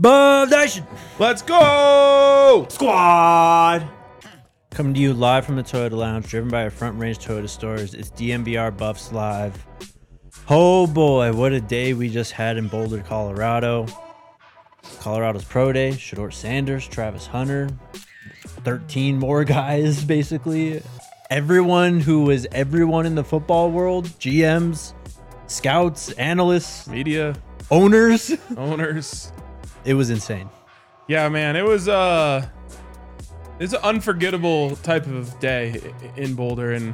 Bub Nation! Let's go! Squad! Coming to you live from the Toyota Lounge, driven by our Front Range Toyota stores. It's DMVR Buffs Live. Oh boy, what a day we just had in Boulder, Colorado. Colorado's Pro Day, Shedeur Sanders, Travis Hunter, 13 more guys, basically. Everyone who was everyone in the football world, GMs, scouts, analysts, Media, owners. It was insane. Yeah, man, it's an unforgettable type of day in Boulder, and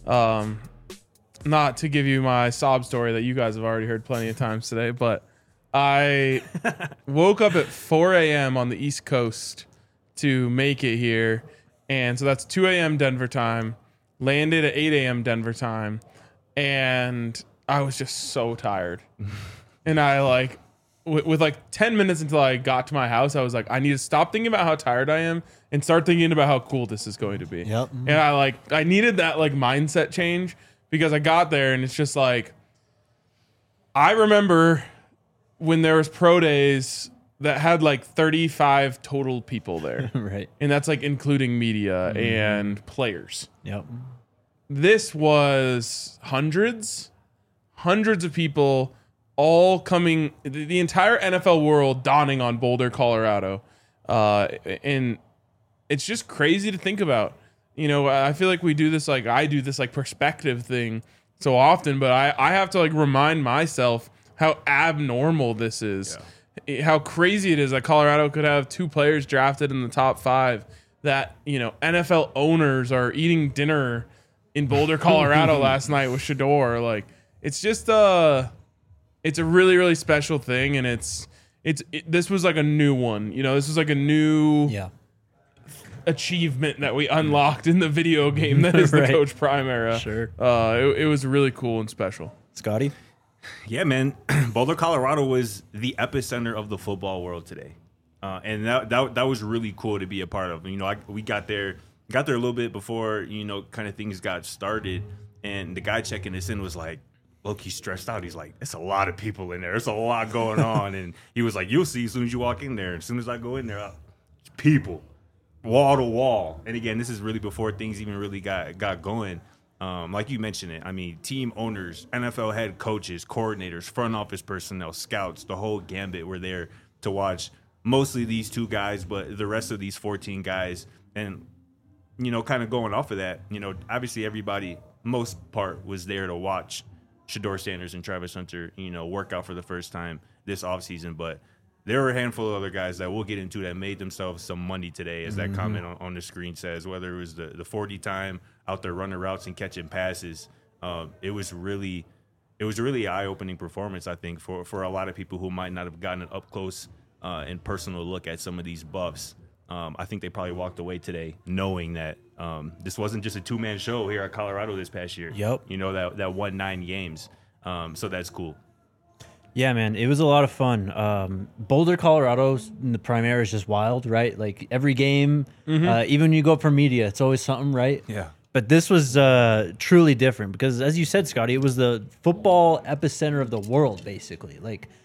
not to give you my sob story that you guys have already heard plenty of times today, but I woke up at 4 a.m. on the East Coast to make it here, and so that's 2 a.m. Denver time, landed at 8 a.m. Denver time, and I was just so tired. And I with like 10 minutes until I got to my house, I was like, I need to stop thinking about how tired I am and start thinking about how cool this is going to be. Yep. And I needed that mindset change, because I got there and it's just like, I remember when there was pro days that had 35 total people there. Right. And that's including media and players. Yep. This was hundreds of people all coming, the entire NFL world dawning on Boulder, Colorado. And it's just crazy to think about. You know, I feel like we do this, I do this perspective thing so often, but I have to remind myself how abnormal this is. Yeah. How crazy it is that Colorado could have 2 players drafted in the top 5, that, NFL owners are eating dinner in Boulder, Colorado last night with Shedeur. It's just it's a really, really special thing, and this was a new one. This was a new achievement that we unlocked in the video game that is the Right. Coach Prime era. Sure. It was really cool and special. Scotty? Yeah, man. Boulder, Colorado was the epicenter of the football world today. And that was really cool to be a part of. We got there a little bit before, kind of things got started. And the guy checking us in was like, look, he's stressed out. He's like, it's a lot of people in there. There's a lot going on. And he was like, you'll see as soon as you walk in there. As soon as I go in there, people, wall to wall. And again, this is really before things even really got going. Like you mentioned it, I mean, team owners, NFL head coaches, coordinators, front office personnel, scouts, the whole gambit were there to watch mostly these 2 guys, but the rest of these 14 guys. And, kind of going off of that, obviously everybody, most part, was there to watch Shedeur Sanders and Travis Hunter, work out for the first time this offseason. But there were a handful of other guys that we'll get into that made themselves some money today, as that comment on the screen says, whether it was the 40 time out there running routes and catching passes. It was really eye-opening performance, I think, for a lot of people who might not have gotten an up-close and personal look at some of these Buffs. I think they probably walked away today knowing that this wasn't just a 2-man show here at Colorado this past year. Yep. That won 9 games. So that's cool. Yeah, man, it was a lot of fun. Boulder, Colorado, in the Primera is just wild, right? Every game, even when you go up for media, it's always something, right? Yeah. But this was truly different because, as you said, Scotty, it was the football epicenter of the world, basically.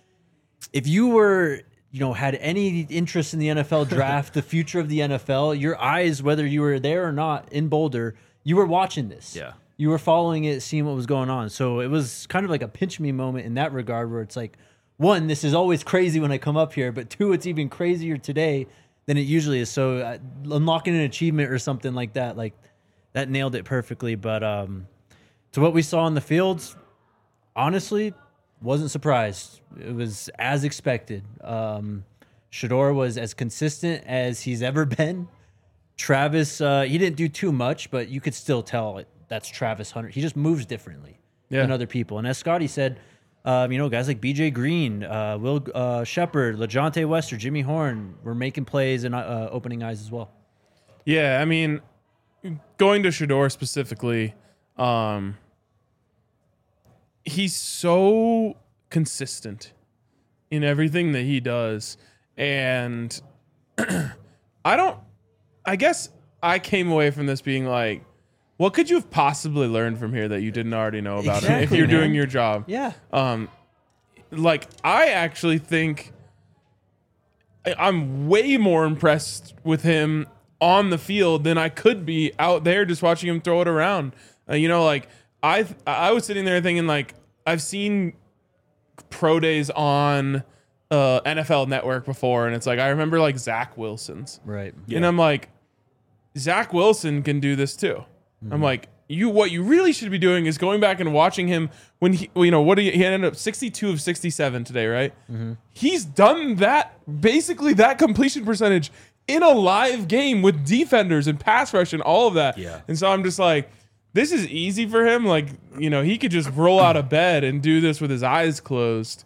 If you were, had any interest in the NFL draft, the future of the NFL, your eyes, whether you were there or not in Boulder, you were watching this. Yeah. You were following it, seeing what was going on. So it was kind of like a pinch me moment in that regard, where it's like, 1, this is always crazy when I come up here, but 2, it's even crazier today than it usually is. So unlocking an achievement or something like that, that nailed it perfectly. But to what we saw in the fields, honestly, wasn't surprised. It was as expected. Shedeur was as consistent as he's ever been. Travis, he didn't do too much, but you could still tell that's Travis Hunter. He just moves differently than other people. And as Scotty said, guys like BJ Green, Will Shepard, LeJontay Wester, Jimmy Horn were making plays and opening eyes as well. Yeah, I mean, going to Shedeur specifically, he's so consistent in everything that he does. And I guess I came away from this being like, what could you have possibly learned from here that you didn't already know about him if you're doing your job? Yeah. I actually think I'm way more impressed with him on the field than I could be out there just watching him throw it around. Like I was sitting there thinking, like, I've seen pro days on NFL Network before, and it's like I remember like Zach Wilson's, Right. and I'm like, Zach Wilson can do this too. I'm like, what you really should be doing is going back and watching him when he ended up 62 of 67 today, right? He's done that, basically that completion percentage in a live game with defenders and pass rush and all of that. Yeah. And so I'm just like, this is easy for him. Like, he could just roll out of bed and do this with his eyes closed.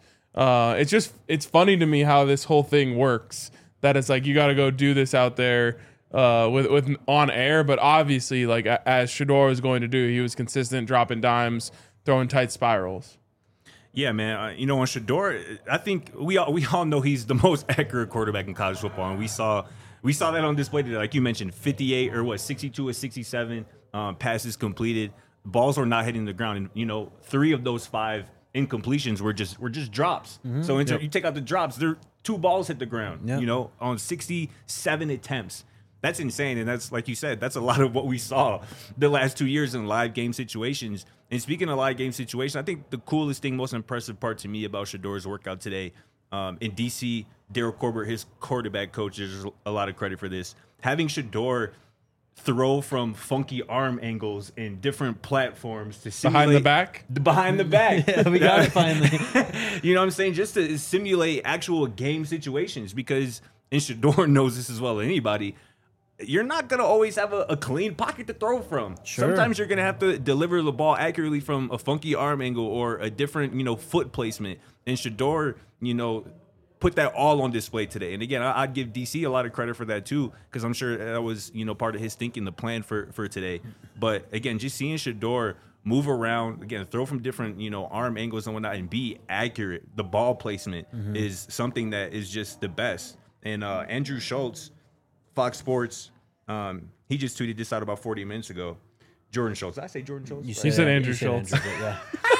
It's funny to me how this whole thing works, that it's like, you got to go do this out there with on air, but obviously, like, as Shedeur was going to do, he was consistent, dropping dimes, throwing tight spirals. Yeah, man. On Shedeur, I think we all know he's the most accurate quarterback in college football, and we saw that on display today. Like you mentioned, 58 or 62 or 67 passes completed. Balls were not hitting the ground, and 3 of those 5 incompletions were just drops. So you take out the drops, 2 balls hit the ground. Yep. On 67 attempts. That's insane, and that's, like you said, that's a lot of what we saw the last 2 years in live game situations. And speaking of live game situations, I think the coolest thing, most impressive part to me about Shedeur's workout today, in DC, Daryl Corbett, his quarterback coach, there's a lot of credit for this. Having Shedeur throw from funky arm angles in different platforms to simulate behind the back. Yeah, we got it finally. You know what I'm saying? Just to simulate actual game situations, because and Shedeur knows this as well as anybody. You're not going to always have a clean pocket to throw from. Sure. Sometimes you're going to have to deliver the ball accurately from a funky arm angle or a different, foot placement. And Shedeur, put that all on display today. And again, I'd give DC a lot of credit for that too, because I'm sure that was, part of his thinking, the plan for today. But again, just seeing Shedeur move around, again, throw from different, arm angles and whatnot, and be accurate. The ball placement is something that is just the best. And Andrew Schultz, Fox Sports, he just tweeted this out about 40 minutes ago. Jordan Schultz. Did I say Jordan Schultz? You said Andrew Schultz. Yeah.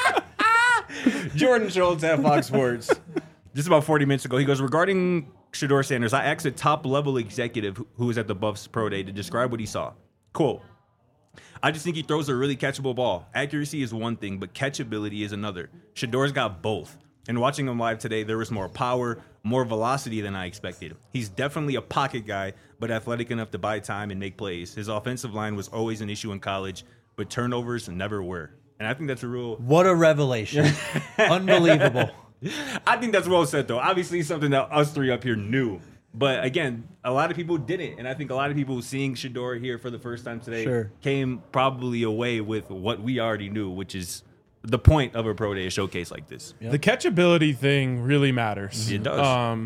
Jordan Schultz at Fox Sports. Just about 40 minutes ago, he goes, regarding Shedeur Sanders, I asked a top-level executive who was at the Buffs Pro Day to describe what he saw. Quote, I just think he throws a really catchable ball. Accuracy is one thing, but catchability is another. Shedeur's got both. And watching him live today, there was more power, more velocity than I expected. He's definitely a pocket guy, but athletic enough to buy time and make plays. His offensive line was always an issue in college, but turnovers never were. And I think that's a real... What a revelation. Unbelievable. I think that's well said, though. Obviously, something that us three up here knew. But again, a lot of people didn't. And I think a lot of people seeing Shedeur here for the first time today came probably away with what we already knew, which is the point of a pro day, a showcase like this. Yep. The catchability thing really matters. It does.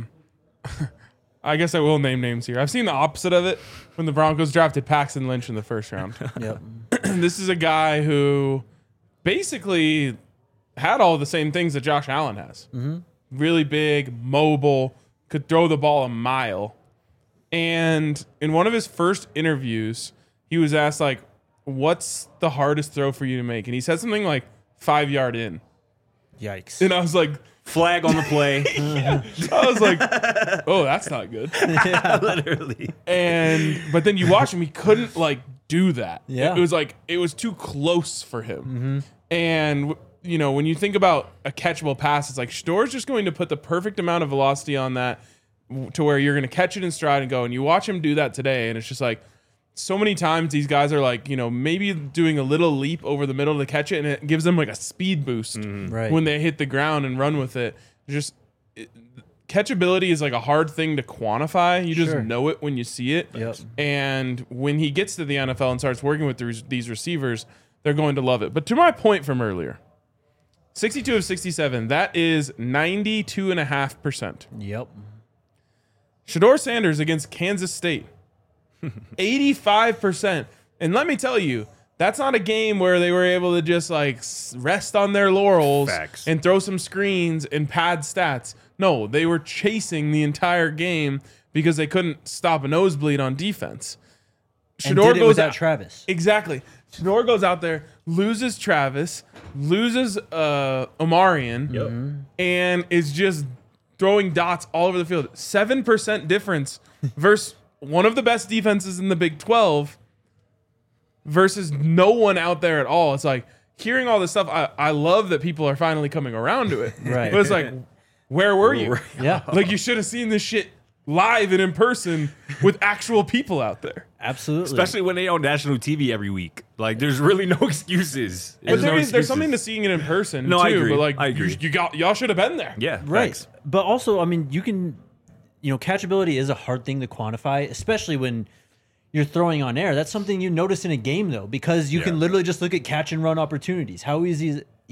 I guess I will name names here. I've seen the opposite of it when the Broncos drafted Paxton Lynch in the first round. Yep. This is a guy who basically had all the same things that Josh Allen has. Mm-hmm. Really big, mobile, could throw the ball a mile. And in one of his first interviews, he was asked, like, what's the hardest throw for you to make? And he said something like 5 yard in. Yikes. And I was like, flag on the play. Yeah. I was like, oh, that's not good. Yeah, literally. But then you watch him, he couldn't like do that. Yeah. It was like, it was too close for him. Mm-hmm. And you know, when you think about a catchable pass, it's like Shedeur's just going to put the perfect amount of velocity on that to where you're going to catch it in stride and go. And you watch him do that today, and it's just like, so many times these guys are like, you know, maybe doing a little leap over the middle to catch it, and it gives them like a speed boost when they hit the ground and run with it. Catchability is like a hard thing to quantify. You just know it when you see it. Yep. And when he gets to the NFL and starts working with these receivers, they're going to love it. But to my point from earlier, 62 of 67, that is 92.5%. Yep. Shedeur Sanders against Kansas State, 85%. And let me tell you, that's not a game where they were able to just like rest on their laurels and throw some screens and pad stats. No, they were chasing the entire game because they couldn't stop a nosebleed on defense. Shedeur goes without Travis. Exactly. Shedeur goes out there, loses Travis, loses Omarion, and is just throwing dots all over the field. 7% difference versus one of the best defenses in the Big 12 versus no one out there at all. It's like hearing all this stuff. I love that people are finally coming around to it. Right. But it's like, where were you? Yeah. Like you should have seen this shit live and in person with actual people out there. Absolutely. Especially when they on national TV every week. Like, there's really no excuses. But there's something to seeing it in person No, too. I agree. But like I agree. y'all should have been there. Yeah, Right. facts. But also, I mean, you can, catchability is a hard thing to quantify, especially when you're throwing on air. That's something you notice in a game, though, because you can literally just look at catch and run opportunities. How easy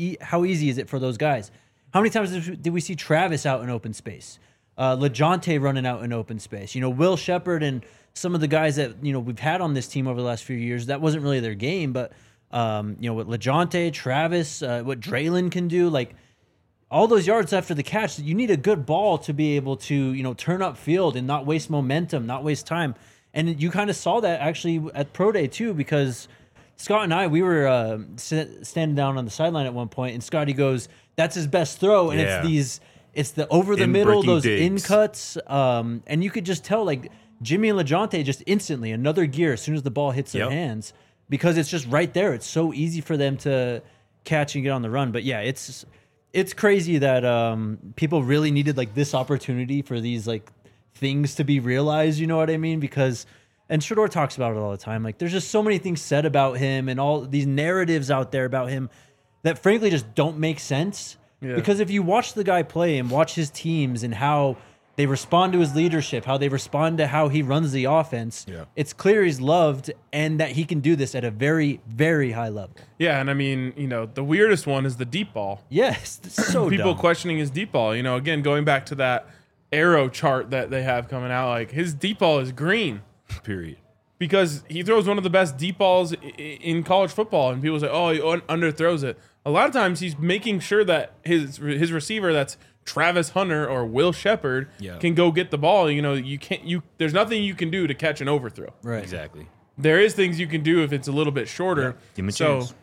is it for those guys? How many times did we see Travis out in open space? LeJohntay running out in open space. Will Shepherd and some of the guys that we've had on this team over the last few years, that wasn't really their game. But what LeJohntay, Travis, what Draylon can do, like all those yards after the catch, you need a good ball to be able to turn up field and not waste momentum, not waste time. And you kind of saw that actually at Pro Day too, because Scott and I, we were standing down on the sideline at one point, and Scotty goes, "That's his best throw," and it's the over the middle, those in cuts, and you could just tell like Jimmy and LeJohntay just instantly another gear as soon as the ball hits their hands, because it's just right there. It's so easy for them to catch and get on the run. But yeah, it's crazy that people really needed like this opportunity for these like things to be realized. You know what I mean? Because, and Shedeur talks about it all the time. Like, there's just so many things said about him and all these narratives out there about him that frankly just don't make sense. Yeah. Because if you watch the guy play and watch his teams and how they respond to his leadership, how they respond to how he runs the offense, it's clear he's loved and that he can do this at a very, very high level. Yeah, and I mean, the weirdest one is the deep ball. Yes, so people dumb. questioning his deep ball. Again, going back to that arrow chart that they have coming out, like his deep ball is green. Period. Because he throws one of the best deep balls in college football, and people say, "Oh, he underthrows it." A lot of times, he's making sure that his receiver, that's Travis Hunter or Will Shepherd, can go get the ball. You can't. There's nothing you can do to catch an overthrow. Right. Exactly. There is things you can do if it's a little bit shorter. Give him a chance.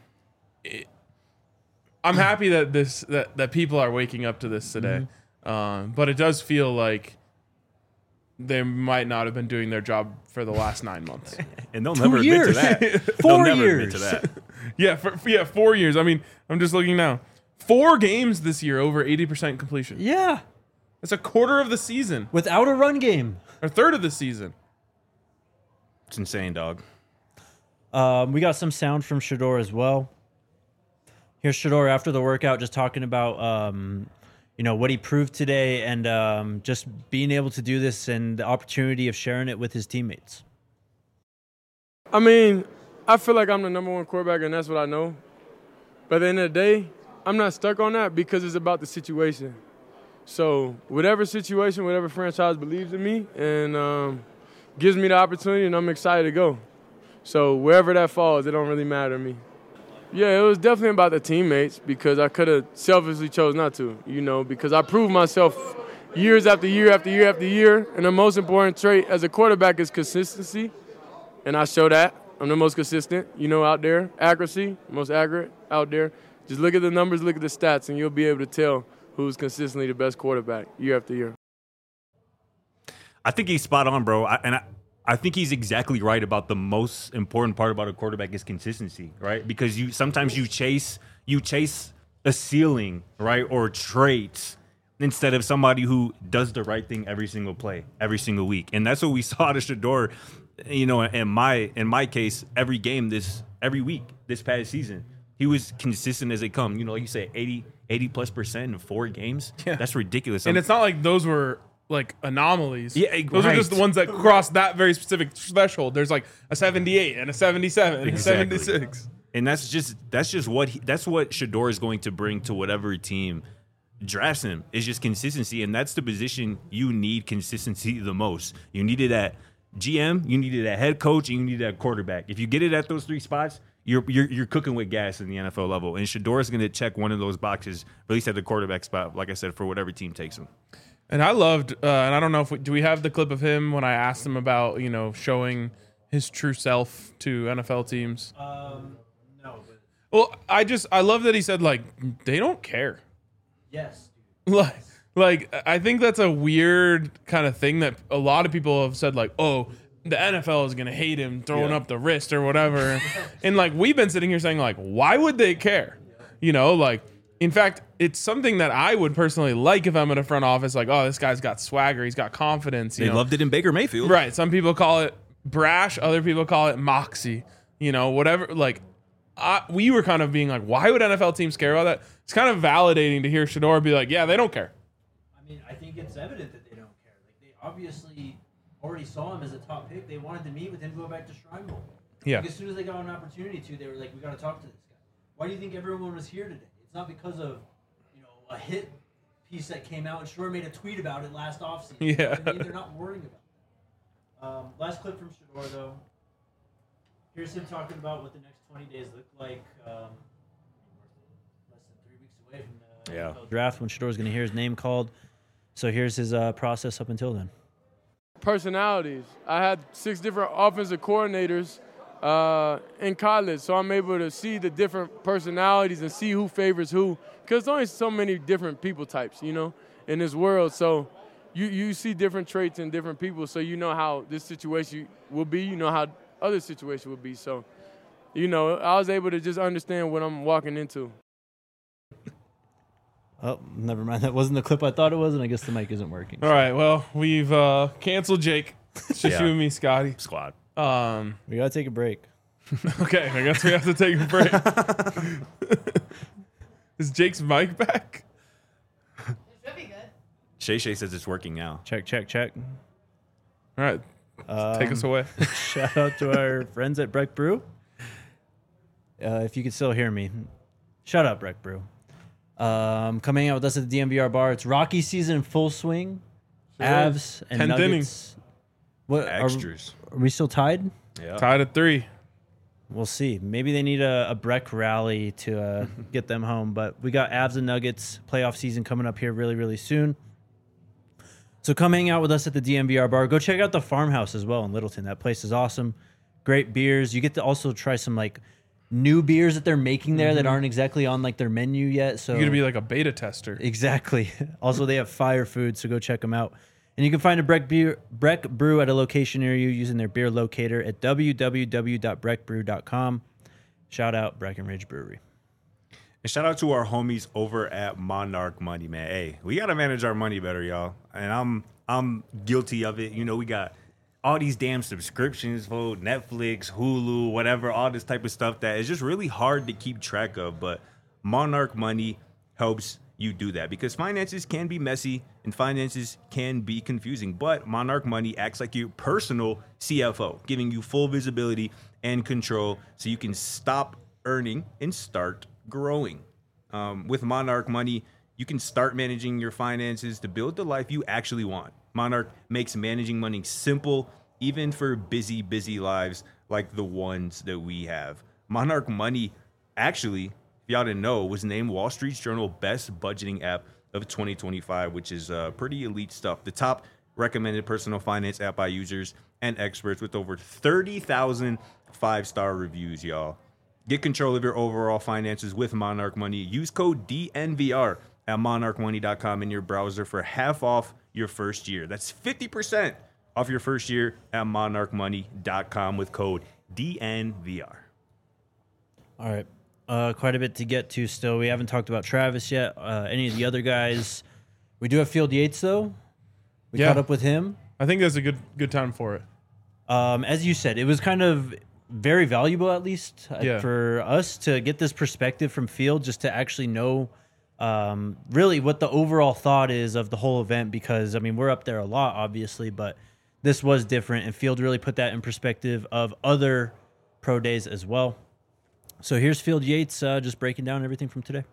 I'm happy that that people are waking up to this today, but it does feel like they might not have been doing their job for the last 9 months. And they'll never admit to that. 4 never years. admit to that. Yeah, 4 years. I mean, I'm just looking now. 4 games this year over 80% completion. Yeah. That's a quarter of the season. Without a run game. Or third of the season. It's insane, dog. We got some sound from Shedeur as well. Here's Shedeur after the workout just talking about what he proved today and just being able to do this and the opportunity of sharing it with his teammates. I mean, I feel like I'm the number one quarterback, and that's what I know. But at the end of the day, I'm not stuck on that because it's about the situation. So whatever situation, whatever franchise believes in me and gives me the opportunity, and I'm excited to go. So wherever that falls, it don't really matter to me. Yeah, it was definitely about the teammates because I could have selfishly chose not to, because I proved myself years after year after year after year. And the most important trait as a quarterback is consistency. And I show that. I'm the most consistent, out there. Accuracy, most accurate out there. Just look at the numbers, look at the stats, and you'll be able to tell who's consistently the best quarterback year after year. I think he's spot on, bro. I think he's exactly right about the most important part about a quarterback is consistency, right? Because sometimes you chase a ceiling, right, or traits instead of somebody who does the right thing every single play, every single week. And that's what we saw out of Shedeur, in my case, every game every week this past season. He was consistent as they come. Like you say, 80+% in 4 games. Yeah. That's ridiculous. And it's not like those were like anomalies. Yeah, those are just the ones that cross that very specific threshold. There's like a 78 and a 77 and a 76. And that's just what Shedeur is going to bring to whatever team drafts him. Is just consistency, and that's the position you need consistency the most. You need it at GM, you need it at head coach, and you need it at quarterback. If you get it at those 3 spots, you're cooking with gas in the NFL level. And Shedeur is going to check one of those boxes, at least at the quarterback spot, like I said, for whatever team takes him. And I loved, and I don't know if do we have the clip of him when I asked him about, showing his true self to NFL teams? No. But Well, I love that he said, like, they don't care. yes. Like, Like, I think that's a weird kind of thing that a lot of people have said, like, oh, the NFL is going to hate him throwing up the wrist or whatever. And, like, we've been sitting here saying, like, why would they care? You know, like, in fact, it's something that I would personally like if I'm in a front office, like, oh, this guy's got swagger, he's got confidence. They loved it in Baker Mayfield. Right. Some people call it brash, other people call it moxie, you know, whatever. Like, we were kind of being like, why would NFL teams care about that? It's kind of validating to hear Shedeur be like, yeah, they don't care. I mean, I think it's evident that they don't care. Like, they obviously already saw him as a top pick. They wanted to meet with him, go back to Shrine Bowl. Yeah. Like, as soon as they got an opportunity to, they were like, we got to talk to this guy. Why do you think everyone was here today? It's not because of, you know, a hit piece that came out and Shedeur made a tweet about it last offseason. Yeah. You know what I mean? They're not worrying about that. Last clip from Shedeur, though. Here's him talking about what the next 20 days look like. Less than 3 weeks away from the NFL draft when Shedeur's going to hear his name called. So here's his process up until then. Personalities. I had 6 different offensive coordinators in college, so I'm able to see the different personalities and see who favors who. Because there's only so many different people types, you know, in this world. So you see different traits in different people, so you know how this situation will be, you know how other situation would be. So, you know, I was able to just understand what I'm walking into. Oh, never mind. That wasn't the clip I thought it was, and I guess the mic isn't working. All right. Well, we've canceled Jake. It's just you and me, Scotty. Squad. We got to take a break. Okay. I guess we have to take a break. Is Jake's mic back? It should be good. Shay says it's working now. Check. All right. Take us away. Shout out to our friends at Breck Brew. If you can still hear me, shout out Breck Brew. Coming out with us at the DMVR bar. It's Rocky season in full swing. Avs and 10th Nuggets. innings. What extras? Are we still tied? Yeah. Tied at 3. We'll see. Maybe they need a Breck rally to get them home. But we got Avs and Nuggets playoff season coming up here really, really soon. So come hang out with us at the DMVR bar. Go check out the Farmhouse as well in Littleton. That place is awesome. Great beers. You get to also try some like new beers that they're making there that aren't exactly on like their menu yet. So You're going to be like a beta tester. exactly. Also, they have fire food, so go check them out. And you can find a Breck Brew at a location near you using their beer locator at www.breckbrew.com. Shout out Breckenridge Brewery. And shout out to our homies over at Monarch Money, man. Hey, we got to manage our money better, y'all. And I'm guilty of it. You know, we got all these damn subscriptions for Netflix, Hulu, whatever, all this type of stuff that is just really hard to keep track of. But Monarch Money helps you do that because finances can be messy and finances can be confusing. But Monarch Money acts like your personal CFO, giving you full visibility and control so you can stop earning and start growing. With Monarch Money, you can start managing your finances to build the life you actually want. Monarch makes managing money simple, even for busy lives like the ones that we have. Monarch Money, actually, if y'all didn't know, was named Wall Street Journal Best Budgeting App of 2025, which is pretty elite stuff. The top recommended personal finance app by users and experts with over 30,000 5-star reviews, y'all. Get control of your overall finances with Monarch Money. Use code DNVR at monarchmoney.com in your browser for half off your first year. That's 50% off your first year at monarchmoney.com with code DNVR. All right. Quite a bit to get to still. We haven't talked about Travis yet. Any of the other guys. We do have Field Yates, though. We caught up with him. I think that's a good time for it. As you said, it was kind of very valuable, at least, Yeah. for us to get this perspective from Field, just to actually know really what the overall thought is of the whole event. Because, I mean, we're up there a lot, obviously, but this was different. And Field really put that in perspective of other pro days as well. So here's Field Yates just breaking down everything from today.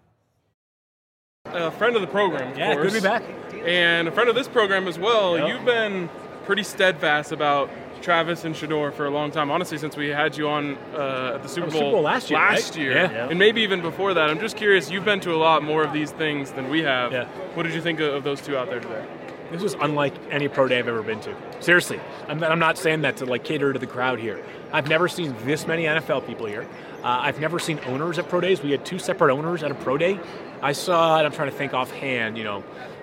A friend of the program, of course. Good to be back. And a friend of this program as well. Yep. You've been pretty steadfast about Travis and Shedeur for a long time, honestly, since we had you on at the Super Bowl last year. Last year. Yeah. And maybe even before that. I'm just curious, you've been to a lot more of these things than we have. Yeah. What did you think of those two out there today? This was unlike any pro day I've ever been to. Seriously. I'm not saying that to like cater to the crowd here. I've never seen this many NFL people here. I've never seen owners at pro days. We had 2 separate owners at a pro day. I saw, and I'm trying to think offhand,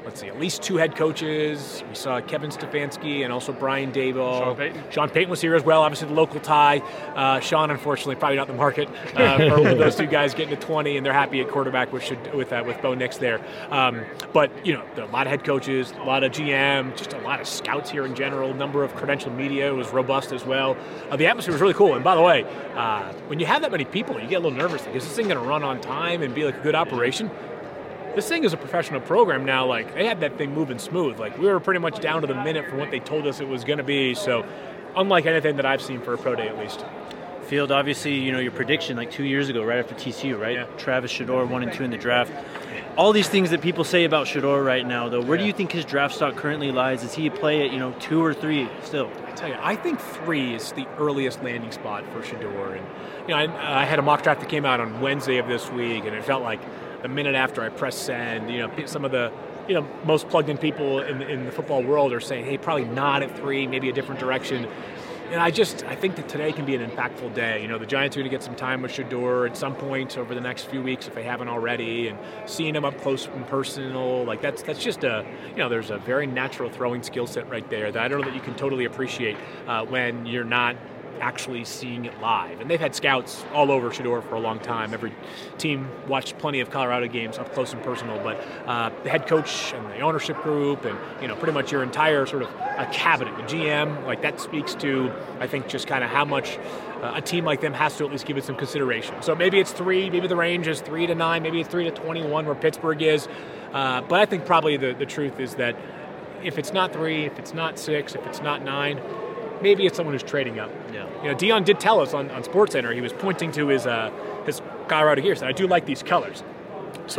let's see, at least 2 head coaches. We saw Kevin Stefanski and also Brian Dable. Sean Payton. Sean Payton was here as well, obviously the local tie. Sean, unfortunately, probably not in the market for those 2 guys getting to 20, and they're happy at quarterback with Bo Nix there. But, a lot of head coaches, a lot of GM, just a lot of scouts here in general. Number of credentialed media was robust as well. The atmosphere was really cool. And by the way, when you have that many people, you get a little nervous. Like, is this thing going to run on time and be like a good operation? This thing is a professional program now. Like, they had that thing moving smooth. Like, we were pretty much down to the minute from what they told us it was going to be. So, unlike anything that I've seen for a pro day, at least. Field, obviously, your prediction like 2 years ago, right after TCU, right? Yeah. Travis Shedeur 1 and 2 in the draft. All these things that people say about Shedeur right now, though, where do you think his draft stock currently lies? Is he a play at 2 or 3 still? I tell you, I think 3 is the earliest landing spot for Shedeur. And I had a mock draft that came out on Wednesday of this week, and it felt like the minute after I pressed send, some of the most plugged-in people in the football world are saying, hey, probably not at 3, maybe a different direction. And I think that today can be an impactful day. The Giants are going to get some time with Shedeur at some point over the next few weeks if they haven't already, and seeing him up close and personal, like that's just there's a very natural throwing skill set right there that I don't know that you can totally appreciate when you're not actually seeing it live. And they've had scouts all over Shedeur for a long time. Every team watched plenty of Colorado games up close and personal, but the head coach and the ownership group and pretty much your entire sort of a cabinet, the GM, like that speaks to, I think, just kind of how much a team like them has to at least give it some consideration. So maybe it's 3, maybe the range is 3 to 9, maybe it's 3 to 21 where Pittsburgh is. But I think probably the truth is that if it's not 3, if it's not 6, if it's not 9, maybe it's someone who's trading up. Yeah. Dion did tell us on SportsCenter, he was pointing to his Colorado gear, said, I do like these colors. So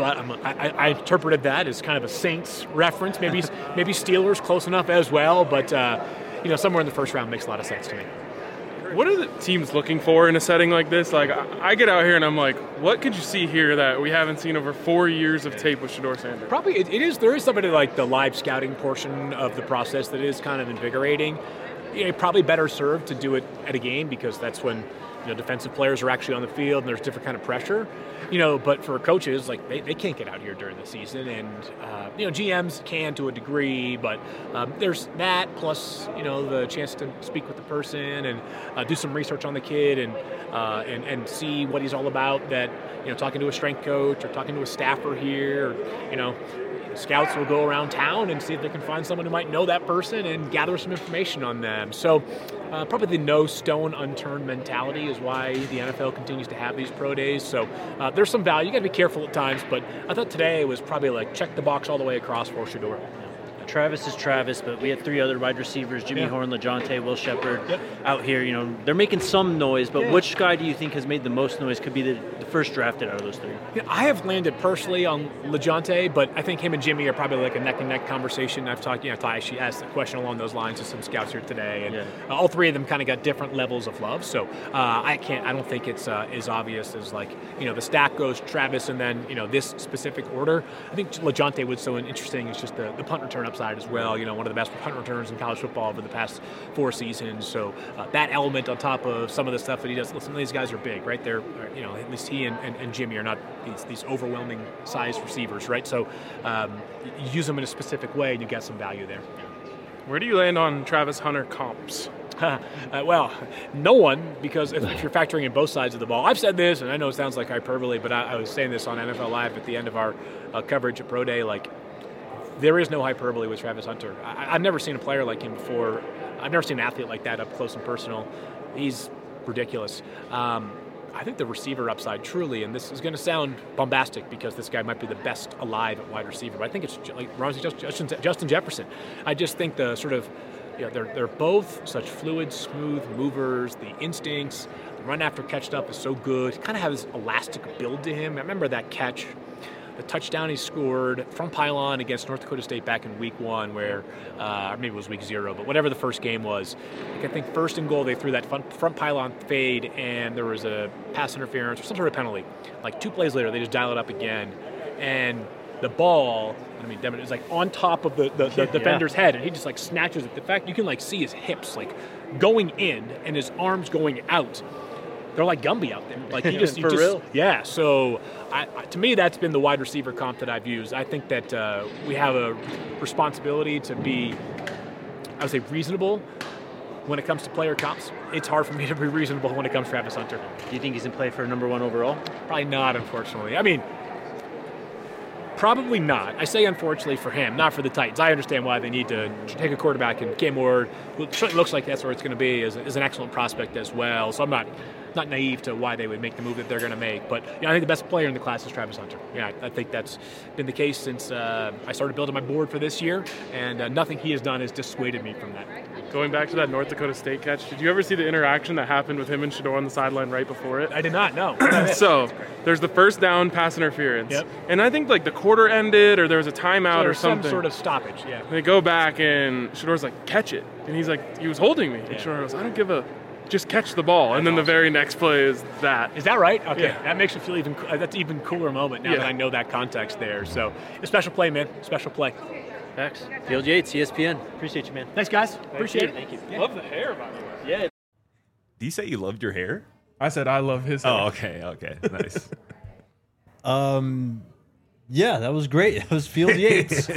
I interpreted that as kind of a Saints reference, maybe Steelers close enough as well, but somewhere in the first round makes a lot of sense to me. What are the teams looking for in a setting like this? Like, I get out here and I'm like, what could you see here that we haven't seen over 4 years of tape with Shedeur Sanders? Probably it is. There is somebody like the live scouting portion of the process that is kind of invigorating. Probably better served to do it at a game because that's when defensive players are actually on the field and there's different kind of pressure. But for coaches, like they can't get out here during the season, and GMs can to a degree, but there's that plus the chance to speak with the person and do some research on the kid and see what he's all about. That talking to a strength coach or talking to a staffer here, or, scouts will go around town and see if they can find someone who might know that person and gather some information on them. So probably the no stone unturned mentality is why the NFL continues to have these pro days. So there's some value. You got to be careful at times, but I thought today was probably like check the box all the way across for Shedeur. Travis is Travis, but we had 3 other wide receivers, Jimmy Horn, LaJohntay, Will Shepherd, out here. They're making some noise, but which guy do you think has made the most noise? Could be the first drafted out of those 3. I have landed personally on LaJohntay, but I think him and Jimmy are probably like a neck-and-neck conversation. I've actually asked a question along those lines to some scouts here today, and all 3 of them kind of got different levels of love. So I don't think it's as obvious as like the stack goes Travis and then this specific order. I think LaJohntay was so interesting. It's just the punt return upside as well. One of the best punt returns in college football over the past 4 seasons. So that element on top of some of the stuff that he does. Listen, these guys are big, right? They're at least he and Jimmy are not these overwhelming size receivers, right? So you use them in a specific way and you get some value there. Where do you land on Travis Hunter comps? Well, no one, because if you're factoring in both sides of the ball. I've said this, and I know it sounds like hyperbole, but I was saying this on NFL Live at the end of our coverage at Pro Day, like, there is no hyperbole with Travis Hunter. I've never seen a player like him before. I've never seen an athlete like that up close and personal. He's ridiculous. I think the receiver upside truly, and this is going to sound bombastic because this guy might be the best alive at wide receiver, but I think it's like Justin Jefferson. I just think the sort of, they're both such fluid, smooth movers. The instincts, the run after catch stuff is so good. He kind of has this elastic build to him. I remember that catch, the touchdown he scored from pylon against North Dakota State back in week 1 where, or maybe it was week 0, but whatever the first game was, I think first and goal they threw that front pylon fade and there was a pass interference or some sort of penalty. Like 2 plays later, they just dial it up again. And the ball, it's like on top of the defender's head, and he just like snatches it. The fact you can like see his hips like going in and his arms going out. they're like Gumby out there. Like you just, real? Yeah. So to me, that's been the wide receiver comp that I've used. I think that we have a responsibility to be, I would say, reasonable when it comes to player comps. It's hard for me to be reasonable when it comes to Travis Hunter. Do you think he's in play for number 1 overall? Probably not, unfortunately. I mean, probably not. I say unfortunately for him, not for the Titans. I understand why they need to take a quarterback, and Cam Ward, who certainly looks like that's where it's going to be, is an excellent prospect as well. So I'm not naive to why they would make the move that they're going to make. But I think the best player in the class is Travis Hunter. Yeah, I think that's been the case since I started building my board for this year, and nothing he has done has dissuaded me from that. Going back to that North Dakota State catch, did you ever see the interaction that happened with him and Shador on the sideline right before it? I did not, no. So there's the first down pass interference. Yep. And I think like the quarter ended or there was a timeout or some something. sort of stoppage, yeah. And they go back and Shador's like, catch it. And he's like, he was holding me. And Shador goes, I don't give a, just catch the ball. And then the very next play is that. Is that right? Okay, Yeah. that makes me feel that's an even cooler moment now Yeah. that I know that context there. So a special play, man, special play. Thanks. Field Yates, ESPN. Appreciate you, man. Thanks, guys. Appreciate it. Thank you. Love the hair, by the way. Yeah. Do you say you loved your hair? I said I love his hair. Oh, okay, nice. Yeah, that was great. That was Field Yates.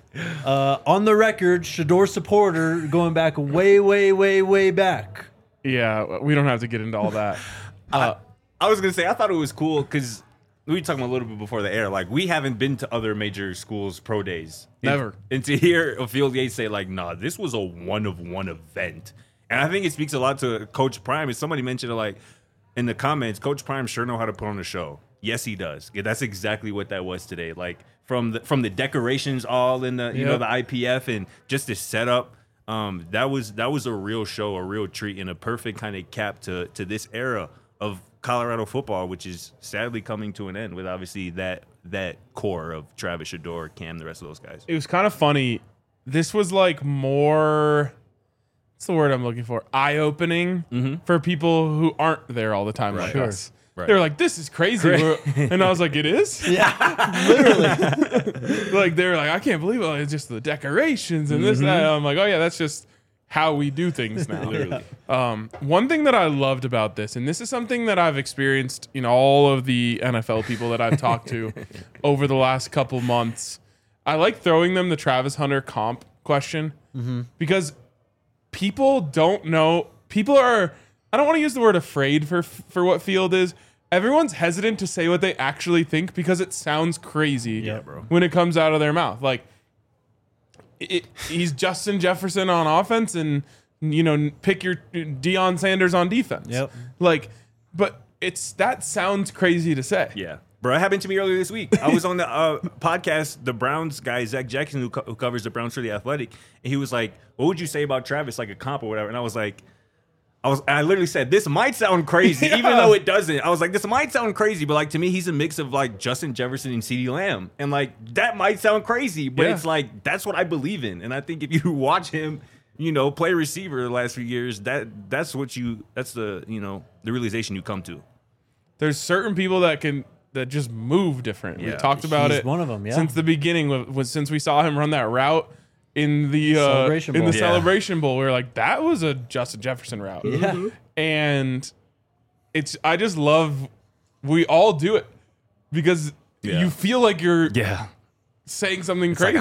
On the record, Shador supporter going back way back. Yeah, we don't have to get into all that. I was gonna say I thought it was cool because we were talking a little bit before the air. Like we haven't been to other major schools pro days. Never. And to hear Field Yates say like, "Nah, this was a one-of-one event," and I think it speaks a lot to Coach Prime. And somebody mentioned it like in the comments, Coach Prime sure know how to put on a show. Yes, he does. Yeah, that's exactly what that was today. Like from the decorations all in the you know the IPF and just the setup. That was a real show, a real treat, and a perfect kind of cap to this era of Colorado football, which is sadly coming to an end with obviously that core of Travis Shador, Cam, the rest of those guys. It was kind of funny. This was like more, what's the word I'm looking for? Eye-opening for people who aren't there all the time like us. Right. They're like, this is crazy. And I was like, it is? Yeah, literally. Like, they're like, I can't believe it. It's just the decorations and this, that. I'm like, oh, yeah, that's just how we do things now. Literally. One thing that I loved about this, and this is something that I've experienced in all of the NFL people that I've talked to over the last couple months, I like throwing them the Travis Hunter comp question because people don't know. People are, I don't want to use the word afraid for what Field is. Everyone's hesitant to say what they actually think because it sounds crazy when it comes out of their mouth. Like, he's Justin Jefferson on offense and, you know, pick your Deion Sanders on defense. Yep. Like, but that sounds crazy to say. Yeah. Bro, it happened to me earlier this week. I was on the podcast, the Browns guy, Zach Jackson, who covers the Browns for The Athletic, and he was like, what would you say about Travis, like a comp or whatever? And I was like, I literally said, this might sound crazy, even though it doesn't. I was like, this might sound crazy, but like to me, he's a mix of like Justin Jefferson and CeeDee Lamb. And like, that might sound crazy, but it's like, that's what I believe in. And I think if you watch him, you know, play receiver the last few years, that's the, you know, the realization you come to. There's certain people that just move different. We talked about He's it one of them, yeah. since the beginning, since we saw him run that route in the Celebration Bowl. We were like, that was a Justin Jefferson route. Yeah. And I just love, we all do it because you feel like you're saying something crazy,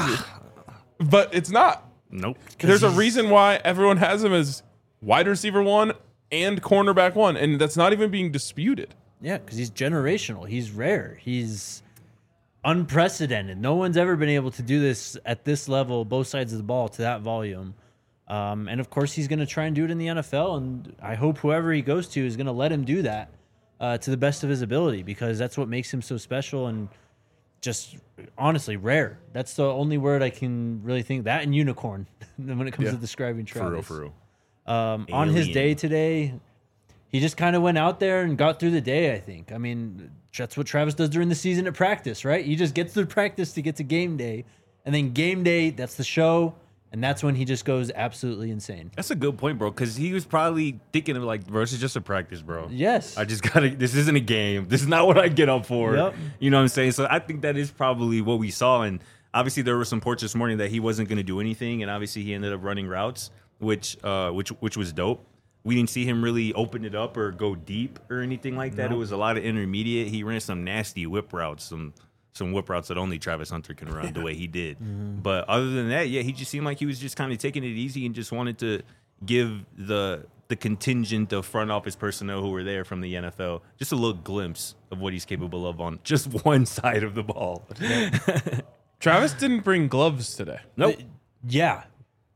but it's not. Nope. There's a reason why everyone has him as wide receiver 1 and cornerback 1, and that's not even being disputed. Yeah, because he's generational. He's rare. He's unprecedented. No one's ever been able to do this at this level, both sides of the ball, to that volume. And of course, he's going to try and do it in the NFL. And I hope whoever he goes to is going to let him do that to the best of his ability, because that's what makes him so special and just honestly rare. That's the only word I can really think. That and unicorn when it comes to describing Travis. For real. On his day today, he just kind of went out there and got through the day, I think. I mean, that's what Travis does during the season at practice, right? He just gets through practice to get to game day. And then game day, that's the show. And that's when he just goes absolutely insane. That's a good point, bro, because he was probably thinking of like, bro, this is just a practice, bro. Yes. I just gotta, this isn't a game. This is not what I get up for. Yep. You know what I'm saying? So I think that is probably what we saw. And obviously there were some reports this morning that he wasn't going to do anything. And obviously he ended up running routes, which was dope. we didn't see him really open it up or go deep or anything like that. It was a lot of intermediate. He ran some nasty whip routes, some whip routes that only Travis Hunter can run the way he did. But other than that, yeah, he just seemed like he was just kind of taking it easy and just wanted to give the contingent of front office personnel who were there from the NFL just a little glimpse of what he's capable of on just one side of the ball. Travis didn't bring gloves today. Nope. Yeah.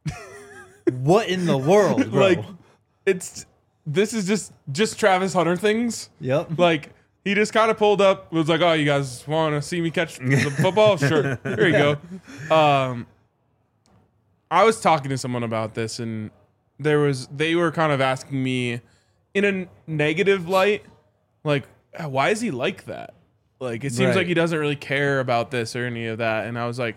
What in the world, bro? Like, this is just Travis Hunter things. Yep. Like, he just kind of pulled up, was like, "Oh, you guys want to see me catch the football? Sure, here you go." I was talking to someone about this, and they were kind of asking me in a negative light, like, why is he like that? Like, it seems Right. like he doesn't really care about this or any of that. And I was like,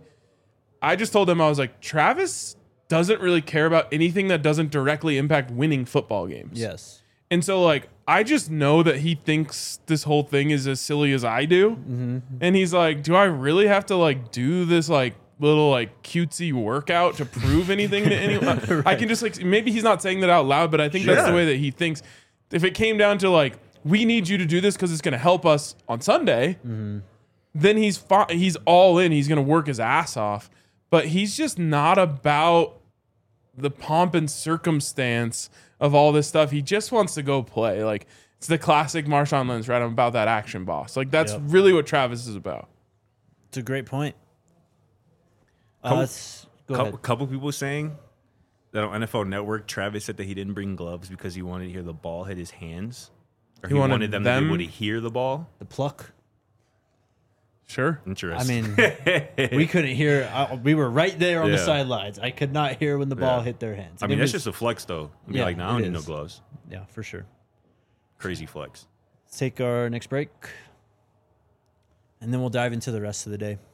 I just told them, I was like, Travis doesn't really care about anything that doesn't directly impact winning football games. Yes. And so, like, I just know that he thinks this whole thing is as silly as I do. Mm-hmm. And he's like, do I really have to, like, do this, like, little, like, cutesy workout to prove anything to anyone? Right. I can just, like, maybe he's not saying that out loud, but I think that's the Sure. way that he thinks. If it came down to, like, we need you to do this because it's going to help us on Sunday, then he's all in. He's going to work his ass off. But he's just not about the pomp and circumstance of all this stuff. He just wants to go play. Like, it's the classic Marshawn Lynch, right? I'm about that action boss. Like, that's Yep. really what Travis is about. It's a great point. Couple- Go ahead. Couple people saying that on NFL Network, Travis said that he didn't bring gloves because he wanted to hear the ball hit his hands. Or he wanted them to be able to hear the ball. The pluck. Sure. I Interesting. mean, we couldn't hear. We were right there on the Yeah. sidelines. I could not hear when the ball Yeah. hit their hands. I And mean, it that's was- just a flex, though. Be Yeah, like, nah, I it don't need no is. gloves. yeah, for sure. Crazy flex. Let's take our next break, and then we'll dive into the rest of the day.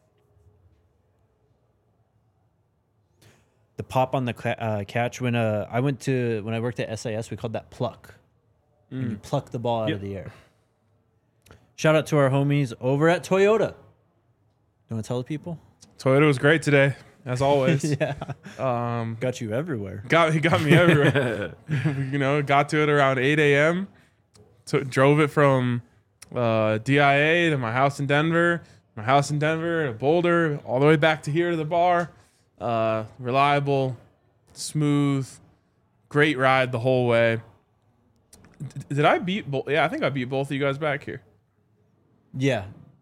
The pop on the catch when I worked at SIS, we called that pluck. When you pluck the ball out of the air. Shout out to our homies over at Toyota. You want to tell the people? Toyota was great today, as always. Yeah, Um, got you everywhere. he got me everywhere. Got to it around 8 a.m. Drove it from DIA to my house in Denver, to Boulder, all the way back to here to the bar. Reliable, smooth, great ride the whole way. Did I beat both? Yeah, I think I beat both of you guys back here. Yeah.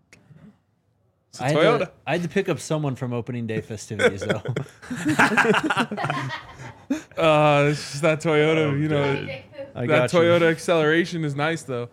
I Toyota. had to pick up someone from opening day festivities, though. It's just that Toyota, I that got you. Toyota acceleration is nice though.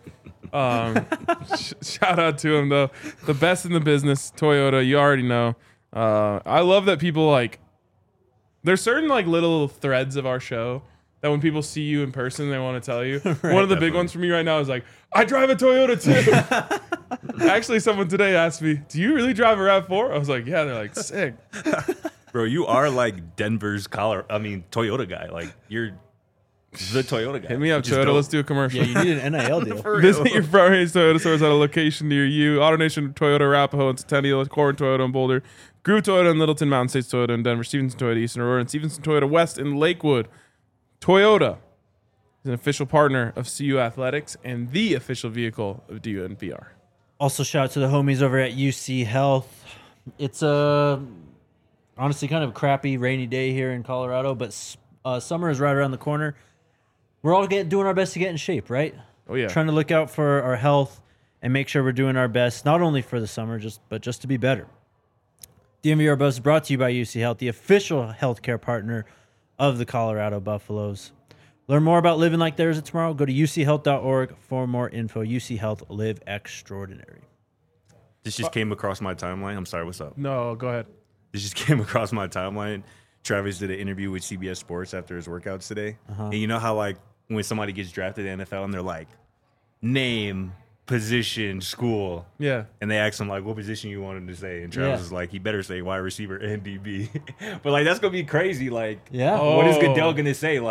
Shout out to him though, the best in the business, Toyota. You already know. I love that people like. There's certain like little threads of our show that when people see you in person, they want to tell you. One of the big ones for me right now is like, I drive a Toyota too. Actually, someone today asked me, "Do you really drive a RAV4?" I was like, "Yeah." They're like, "Sick." Bro, you are like Denver's Toyota guy. Like, you're the Toyota guy. Hit me up, which is Toyota. dope. Let's do a commercial. Yeah, you need an NIL deal. Visit your Front Range Toyota stores at a location near you. AutoNation Toyota Arapahoe and Centennial, Corin Toyota in Boulder, Groove Toyota in Littleton, Mountain States Toyota in Denver, Stevenson Toyota Eastern Aurora, and Stevenson Toyota West in Lakewood. Toyota is an official partner of CU Athletics and the official vehicle of DUNPR. Also, shout out to the homies over at UC Health. It's honestly kind of a crappy, rainy day here in Colorado, but summer is right around the corner. We're all doing our best to get in shape, right? Oh, yeah. Trying to look out for our health and make sure we're doing our best, not only for the summer, but just to be better. DMVR Buzz is brought to you by UC Health, the official healthcare partner of the Colorado Buffaloes. Learn more about living like there's a tomorrow. Go to uchealth.org for more info. UC Health, live extraordinary. This just came across my timeline. I'm sorry, what's up? No, go ahead. This just came across my timeline. Travis did an interview with CBS Sports after his workouts today. And you know how, like, when somebody gets drafted in the NFL and they're like, name, position, school. Yeah. And they asked him, like, what position you wanted to say. And Travis Yeah. was like, he better say wide receiver and DB. But, like, that's going to be crazy. Like, Yeah. what is Oh. Goodell going to say? Like,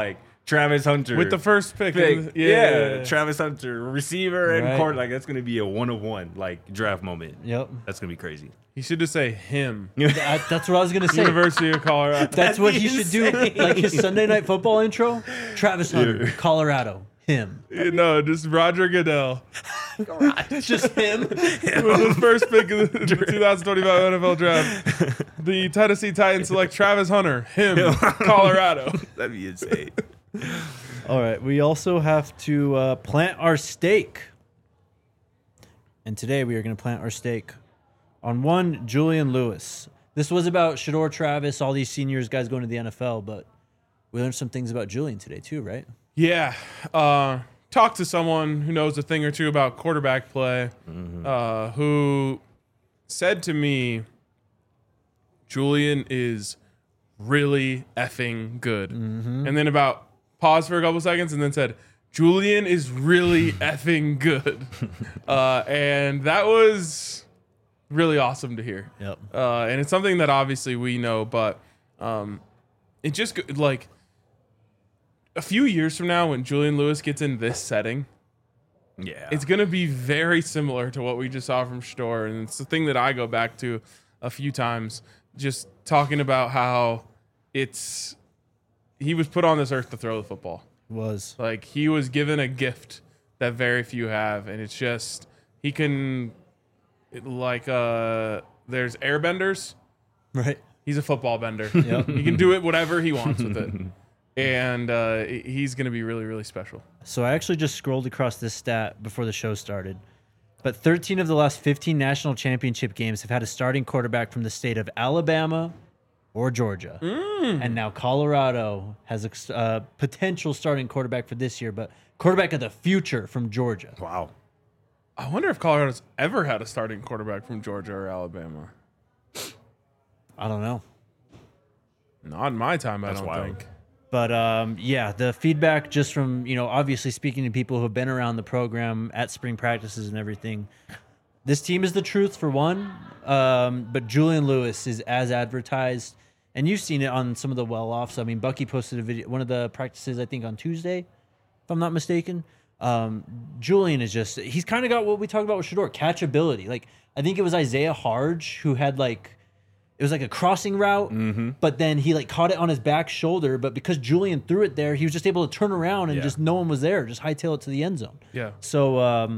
Travis Hunter with the first pick. Yeah, Travis Hunter, receiver and Right. court. Like that's gonna be a 1-of-1 like draft moment. Yep. That's gonna be crazy. You should just say him. That's what I was gonna say. University of Colorado. That's what he That'd should be do. insane. Like his Sunday Night Football intro. Travis Hunter, Colorado. Him. No, just Roger Goodell. Just him. With his first pick of the 2025 NFL Draft. The Tennessee Titans select Travis Hunter. Him. Colorado. That'd be insane. All right. We also have to plant our stake. And today we are going to plant our stake on one Julian Lewis. This was about Shedeur Travis, all these seniors guys going to the NFL, but we learned some things about Julian today too, right? Yeah. Talk to someone who knows a thing or two about quarterback play, who said to me, Julian is really effing good. And then paused for a couple seconds and then said, Julian is really effing good. And that was really awesome to hear. Yep. And it's something that obviously we know, but it just like a few years from now when Julian Lewis gets in this setting, Yeah. it's going to be very similar to what we just saw from Shedeur. And it's the thing that I go back to a few times, just talking about how he was put on this earth to throw the football. Was. Like he was given a gift that very few have. And it's just, he can there's airbenders. Right. He's a football bender. Yep. He can do it whatever he wants with it. And he's going to be really, really special. So I actually just scrolled across this stat before the show started. But 13 of the last 15 national championship games have had a starting quarterback from the state of Alabama or Georgia. And now Colorado has a potential starting quarterback for this year, but quarterback of the future from Georgia. Wow. I wonder if Colorado's ever had a starting quarterback from Georgia or Alabama. I don't know. Not in my time, I don't wild. think. But yeah, the feedback just from, obviously speaking to people who have been around the program at spring practices and everything, this team is the truth for one. But Julian Lewis is as advertised. And you've seen it on some of the well-offs. I mean, Bucky posted a video, one of the practices, I think, on Tuesday, if I'm not mistaken. Julian is just, he's kind of got what we talked about with Shedeur, catchability. Like, I think it was Isaiah Harge who had it was like a crossing route, but then he caught it on his back shoulder. But because Julian threw it there, he was just able to turn around and just no one was there, just hightail it to the end zone. Yeah. So,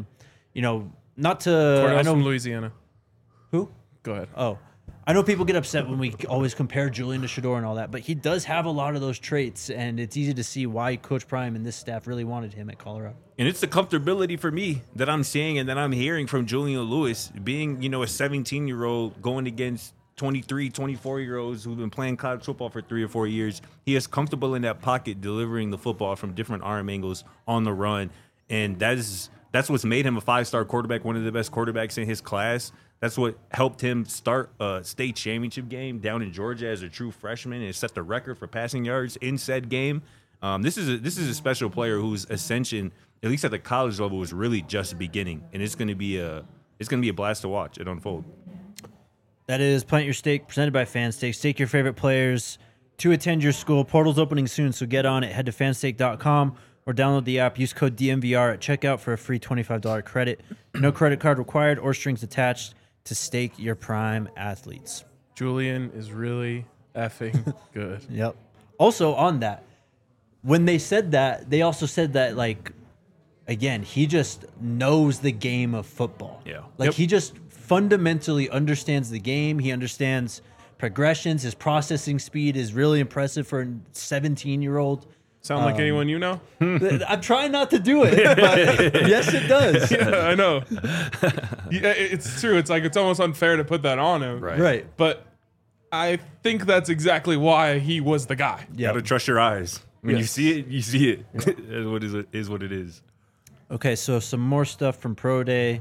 not to, Cornell's I know from Louisiana. who? Go ahead. Oh, I know people get upset when we always compare Julian to Shedeur and all that, but he does have a lot of those traits, and it's easy to see why Coach Prime and this staff really wanted him at Colorado. And it's the comfortability for me that I'm seeing and that I'm hearing from Julian Lewis being, a 17-year-old going against 23, 24-year-olds who've been playing college football for 3 or 4 years. He is comfortable in that pocket delivering the football from different arm angles on the run. And that's what's made him a 5-star quarterback, one of the best quarterbacks in his class. That's what helped him start a state championship game down in Georgia as a true freshman and set the record for passing yards in said game. This is a special player whose ascension, at least at the college level, is really just beginning, and it's going to be a blast to watch it unfold. That is Plant Your Stake, presented by Fanstake. Stake your favorite players to attend your school. Portal's opening soon, so get on it. Head to fanstake.com or download the app. Use code DMVR at checkout for a free $25 credit. No credit card required or strings attached to stake your prime athletes. Julian is really effing good. Yep. Also on that, when they said that, they also said that, again, he just knows the game of football. Yeah. He just fundamentally understands the game. He understands progressions. His processing speed is really impressive for a 17-year-old. Sound like anyone you know? I'm trying not to do it, but yes, it does. Yeah, I know. Yeah, it's true. It's it's almost unfair to put that on him. Right. But I think that's exactly why he was the guy. You got to trust your eyes. When you Yes. see it, you see it. Is what it is. Okay, so some more stuff from Pro Day.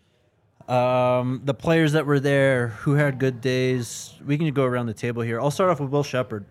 The players that were there who had good days. We can go around the table here. I'll start off with Will Shepherd.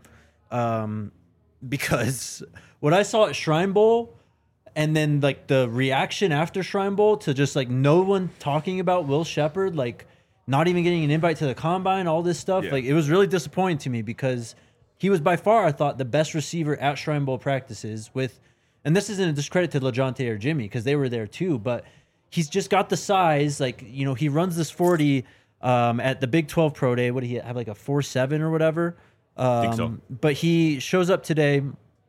Because what I saw at Shrine Bowl and then the reaction after Shrine Bowl to just no one talking about Will Shepherd, not even getting an invite to the combine, all this stuff, Yeah. it was really disappointing to me because he was by far, I thought, the best receiver at Shrine Bowl practices with, and this isn't a discredit to LeJohntay or Jimmy because they were there too, but he's just got the size. Like, you know, he runs this 40 at the Big 12 Pro Day. What did he have, like a 4.7 or whatever? Think so. But he shows up today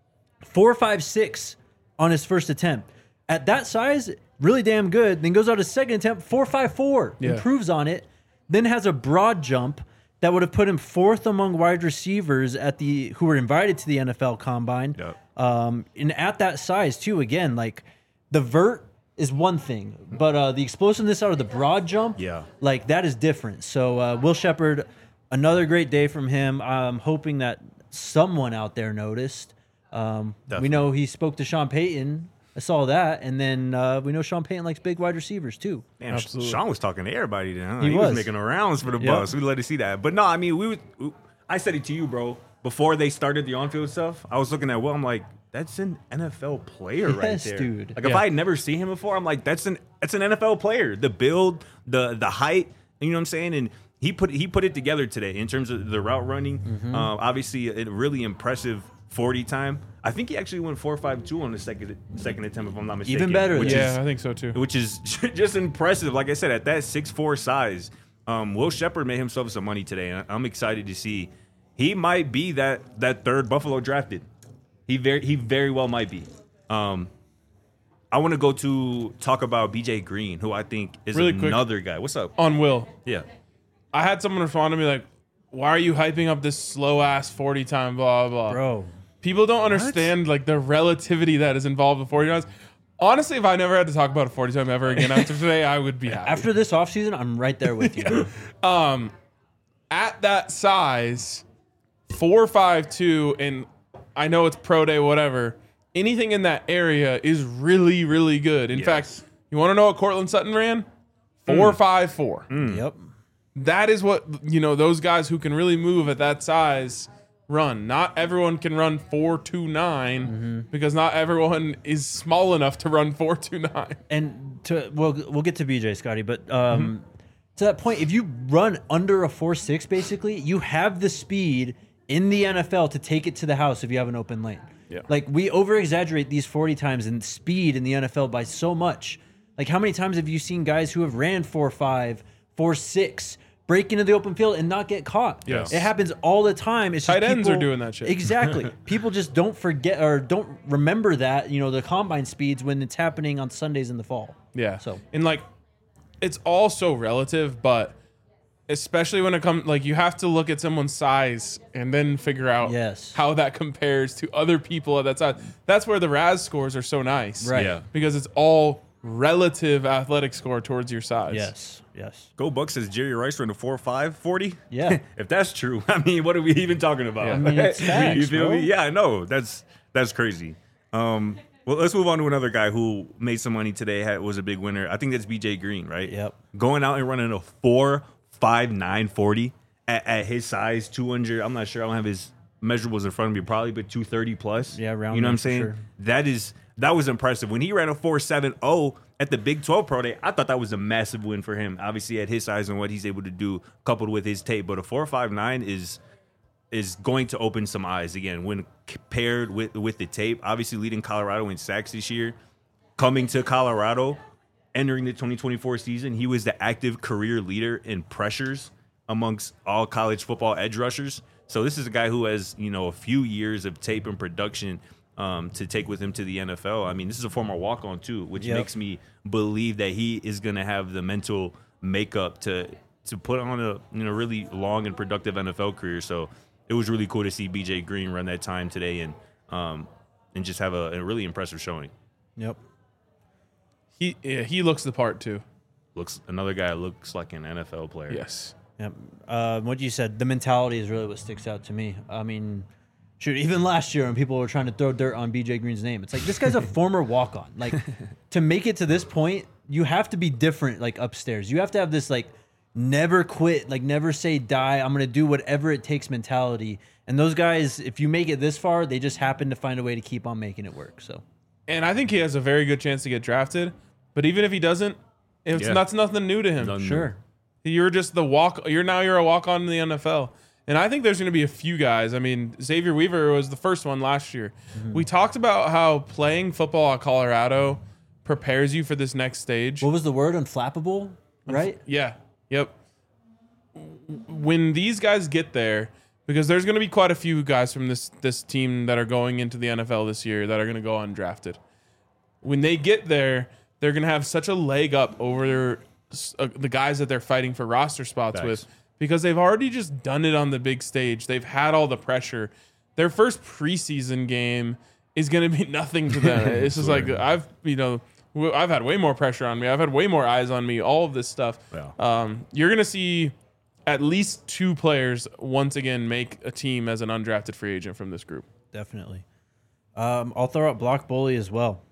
4.56 on his first attempt. At that size, really damn good. Then goes out his second attempt, 4.54, improves on it, then has a broad jump that would have put him fourth among wide receivers who were invited to the NFL Combine. Yep. And at that size too, again, like the vert is one thing, but the explosiveness out of the broad jump, like that is different. So Will Shepherd, another great day from him. I'm hoping that someone out there noticed. We know he spoke to Sean Payton. I saw that, and then we know Sean Payton likes big wide receivers too. Man, Sean was talking to everybody then. Huh? He was making the rounds for the bus. We let to see that. But no, I mean, I said it to you, bro. Before they started the on-field stuff, I was looking at Will. I'm like, that's an NFL player right there, dude. Like if I had never seen him before, I'm like, that's an NFL player. The build, the height, you know what I'm saying? And he put it together today in terms of the route running. Obviously, a really impressive 40 time. I think he actually went 4.52 on the second attempt, if I'm not mistaken. Even better. I think so too. Which is just impressive. Like I said, at that 6'4" size, Will Shepherd made himself some money today. And I'm excited to see. He might be that third Buffalo drafted. He very well might be. I want to talk about BJ Green, who I think is Really another quick. guy. What's up? On Will. Yeah. I had someone respond to me like, why are you hyping up this slow ass 40 time blah blah? Bro. People don't understand like the relativity that is involved with 40 times. Honestly, if I never had to talk about a 40 time ever again after today, I would be happy. After this offseason, I'm right there with you. Bro. At that size, 4.52, and I know it's pro day, whatever. Anything in that area is really, really good. In fact, you want to know what Cortland Sutton ran? 4.54. Yep. That is what, you know, those guys who can really move at that size run. Not everyone can run 4.29 because not everyone is small enough to run 4.29. And we'll get to BJ, Scotty, but to that point, if you run under a 4.6, basically, you have the speed in the NFL to take it to the house if you have an open lane. Yeah. Like, we over-exaggerate these 40 times and speed in the NFL by so much. Like, how many times have you seen guys who have ran 4.5, 4.6, break into the open field and not get caught? Yes. It happens all the time. It's Tight just ends are doing that shit. Exactly. People just don't forget or don't remember that, you know, the combine speeds when it's happening on Sundays in the fall. Yeah. So. And like, it's all so relative, but especially when it comes, like, you have to look at someone's size and then figure out how that compares to other people at that size. That's where the RAS scores are so nice. Right. Yeah. Because it's all relative athletic score towards your size. Yes. Go Buck says Jerry Rice ran a 4.5 40. Yeah. If that's true, I mean, what are we even talking about? Yeah. I mean, it's facts, You feel bro. me? Yeah, I know. That's crazy. Well, let's move on to another guy who made some money today. Was a big winner. I think that's BJ Green, right? Yep. Going out and running a 4.59 40 at his size, 200. I'm not sure. I don't have his measurables in front of me. Probably, but 230 plus. Yeah, around You know what there I'm for saying? sure. That was impressive. When he ran a 4.70 at the Big 12 Pro Day, I thought that was a massive win for him. Obviously, at his size and what he's able to do, coupled with his tape. But a 4.59 is going to open some eyes again when paired with the tape. Obviously, leading Colorado in sacks this year. Coming to Colorado, entering the 2024 season, he was the active career leader in pressures amongst all college football edge rushers. So this is a guy who has, you know, a few years of tape and production to take with him to the NFL. I mean, this is a former walk-on too, which makes me believe that he is going to have the mental makeup to put on a really long and productive NFL career. So it was really cool to see BJ Green run that time today and just have a really impressive showing. Yep. He looks the part too. Another guy looks like an NFL player. Yes. Yep. What you said, the mentality is really what sticks out to me. I mean, shoot, even last year when people were trying to throw dirt on BJ Green's name, it's like, this guy's a former walk-on. Like, to make it to this point, you have to be different, like, upstairs. You have to have this, like, never quit, like, never say die, I'm going to do whatever it takes mentality. And those guys, if you make it this far, they just happen to find a way to keep on making it work. So, And I think he has a very good chance to get drafted. But even if he doesn't, that's nothing new to him. Nothing new. sure. You're just you're a walk-on in the NFL. And I think there's going to be a few guys. I mean, Xavier Weaver was the first one last year. We talked about how playing football at Colorado prepares you for this next stage. What was the word? Unflappable, right? Yeah. Yep. When these guys get there, because there's going to be quite a few guys from this team that are going into the NFL this year that are going to go undrafted. When they get there, they're going to have such a leg up over the guys that they're fighting for roster spots with, because they've already just done it on the big stage. They've had all the pressure. Their first preseason game is going to be nothing to them. It's just like I've had way more pressure on me. I've had way more eyes on me. All of this stuff. Yeah. You're going to see at least 2 players once again make a team as an undrafted free agent from this group. Definitely. I'll throw out Block Bully as well.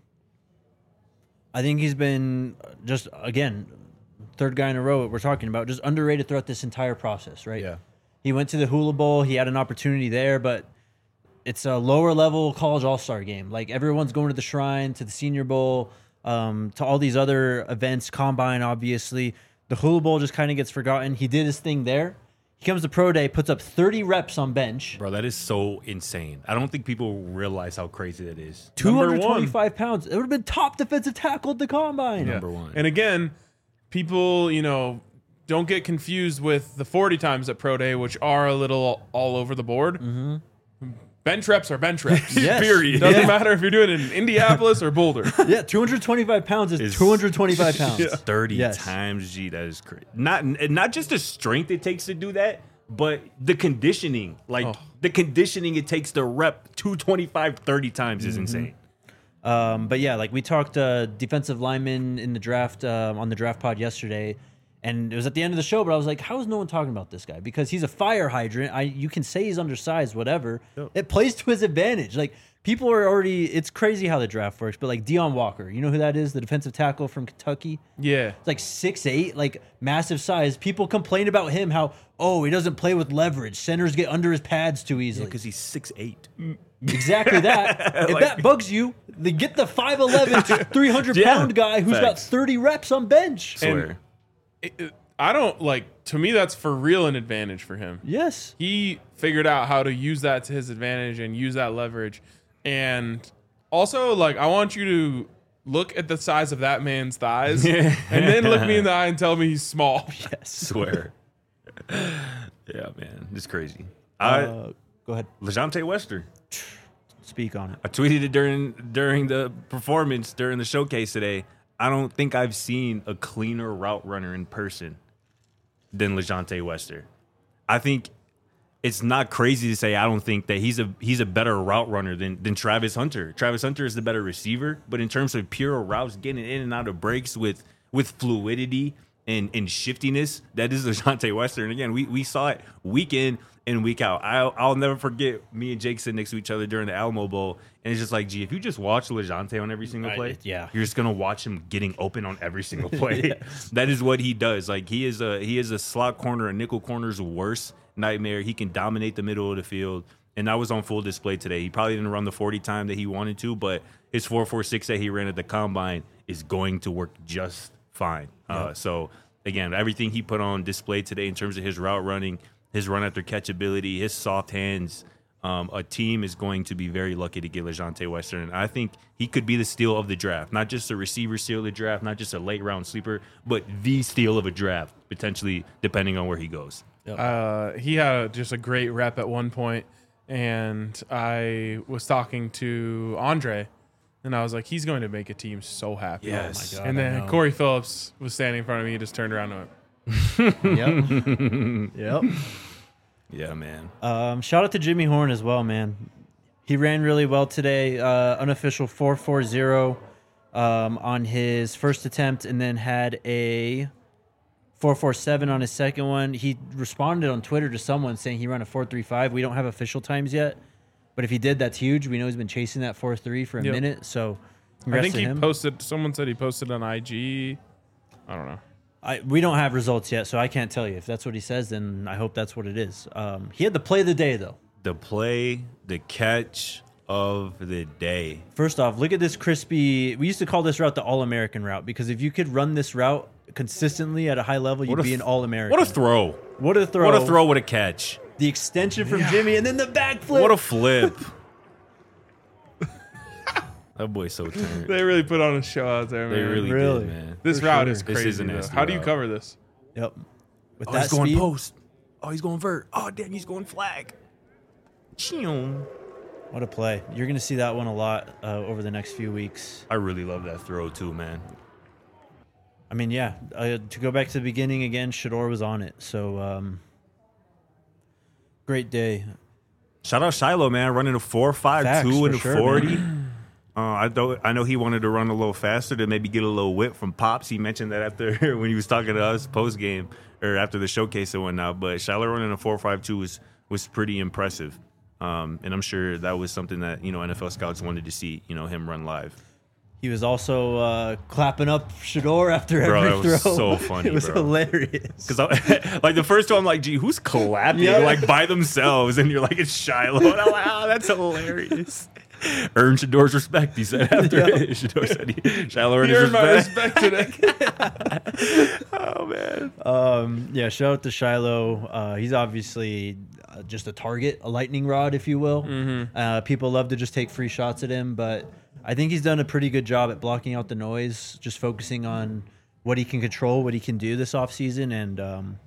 I think he's been just, again, third guy in a row that we're talking about, just underrated throughout this entire process, right? Yeah. He went to the Hula Bowl. He had an opportunity there, but it's a lower level college all-star game. Like, everyone's going to the Shrine, to the Senior Bowl, to all these other events, Combine, obviously. The Hula Bowl just kind of gets forgotten. He did his thing there. He comes to Pro Day, puts up 30 reps on bench. Bro, that is so insane. I don't think people realize how crazy that is. 225 pounds. It would have been top defensive tackle at the Combine. Number one. And again, people, don't get confused with the 40 times at Pro Day, which are a little all over the board. Bench reps are bench reps. Yes. Period. Doesn't matter if you're doing it in Indianapolis or Boulder. Yeah, 225 pounds is 225 pounds. 30 Yes. times, G. That is crazy. Not just the strength it takes to do that, but the conditioning. Like, the conditioning it takes to rep 225 30 times is insane. But yeah, like we talked defensive lineman in the draft on the draft pod yesterday, and it was at the end of the show, but I was like, how is no one talking about this guy? Because he's a fire hydrant. You can say he's undersized, whatever. Yep. It plays to his advantage. Like, people are already, it's crazy how the draft works, but like Deion Walker, you know who that is? The defensive tackle from Kentucky? Yeah. It's like 6'8", like massive size. People complain about him, how, he doesn't play with leverage. Centers get under his pads too easily. Because he's 6'8". Exactly that. If that bugs you, then get the 5'11", 300-pound guy who's got 30 reps on bench. Swear. I don't to me, that's for real an advantage for him. Yes. He figured out how to use that to his advantage and use that leverage. And also, I want you to look at the size of that man's thighs and then look me in the eye and tell me he's small. Yes. Swear. Yeah, man. It's crazy. Go ahead. LeJontay Wester. Speak on it. I tweeted it during the performance, during the showcase today. I don't think I've seen a cleaner route runner in person than LeJontay Wester. I think it's not crazy to say I don't think that he's a better route runner than Travis Hunter. Travis Hunter is the better receiver, but in terms of pure routes, getting in and out of breaks with fluidity and shiftiness, that is LeJontay Wester. And again, we saw it week in and week out. I'll never forget me and Jake sitting next to each other during the Alamo Bowl, and it's just like, gee, if you just watch LeJontay on every single play, yeah, you're just gonna watch him getting open on every single play. Yes. That is what he does. Like, he is a slot corner, a nickel corner's worst nightmare. He can dominate the middle of the field, and that was on full display today. He probably didn't run the 40 time that he wanted to, but his 4.46 that he ran at the Combine is going to work just fine. Yep. So again, everything he put on display today in terms of his route running, his run after catch ability, his soft hands, a team is going to be very lucky to get LeJontay Wester. And I think he could be the steal of the draft, not just a receiver steal of the draft, not just a late round sleeper, but the steal of a draft, potentially, depending on where he goes. Yep. He had just a great rep at one point, and I was talking to Andre, and I was like, he's going to make a team so happy. Yes. Oh my God, and then Corey Phillips was standing in front of me. He just turned around and went, Yep. Yeah, man. Shout out to Jimmy Horn as well, man. He ran really well today. Unofficial 4.40 on his first attempt, and then had a 4.47 on his second one. He responded on Twitter to someone saying he ran a 4.35. We don't have official times yet, but if he did, that's huge. We know he's been chasing that 4.3 for a minute. So I think to he him. posted. Someone said he posted on IG. I don't know. We don't have results yet, so I can't tell you. If that's what he says, then I hope that's what it is. He had the play of the day, though. The play, the catch of the day. First off, look at this crispy. We used to call this route the All-American route, because if you could run this route consistently at a high level, you'd be an All-American. What a throw. What a throw. What a throw, what a catch. the extension from Jimmy, and then the backflip. What a flip. That boy's so turned. They really put on a show out there, man. They really Really? did, man. This For route sure. is This crazy. is a though. nasty How do you route. cover this? Yep. With Oh, that he's going speed, post. Oh, he's going vert. Oh, damn, he's going flag. Ching. what a play. You're going to see that one a lot over the next few weeks. I really love that throw, too, man. I mean, yeah, to go back to the beginning again, Shador was on it. So, great day. Shout out Shiloh, man, running a 4.52 Facts, and for a sure, 40. I know he wanted to run a little faster to maybe get a little whip from Pops. He mentioned that after when he was talking to us post game or after the showcase and whatnot. But Shiloh running a 4.52 was pretty impressive, and I'm sure that was something that NFL scouts wanted to see him run live. He was also clapping up Shador after Bro, every that throw. was so funny, It was bro. hilarious. Because like the first two, I'm like, gee, who's clapping Yeah. like by themselves? And you're like, it's Shiloh. And I'm like, oh, that's hilarious. Earn Shador's respect, he said after Shador said Shiloh earned You his earned my respect. respect today. Oh man. Yeah, shout out to Shiloh. He's obviously just a target, a lightning rod, if you will. People love to just take free shots at him, but I think he's done a pretty good job at blocking out the noise, just focusing on what he can control, what he can do this offseason. And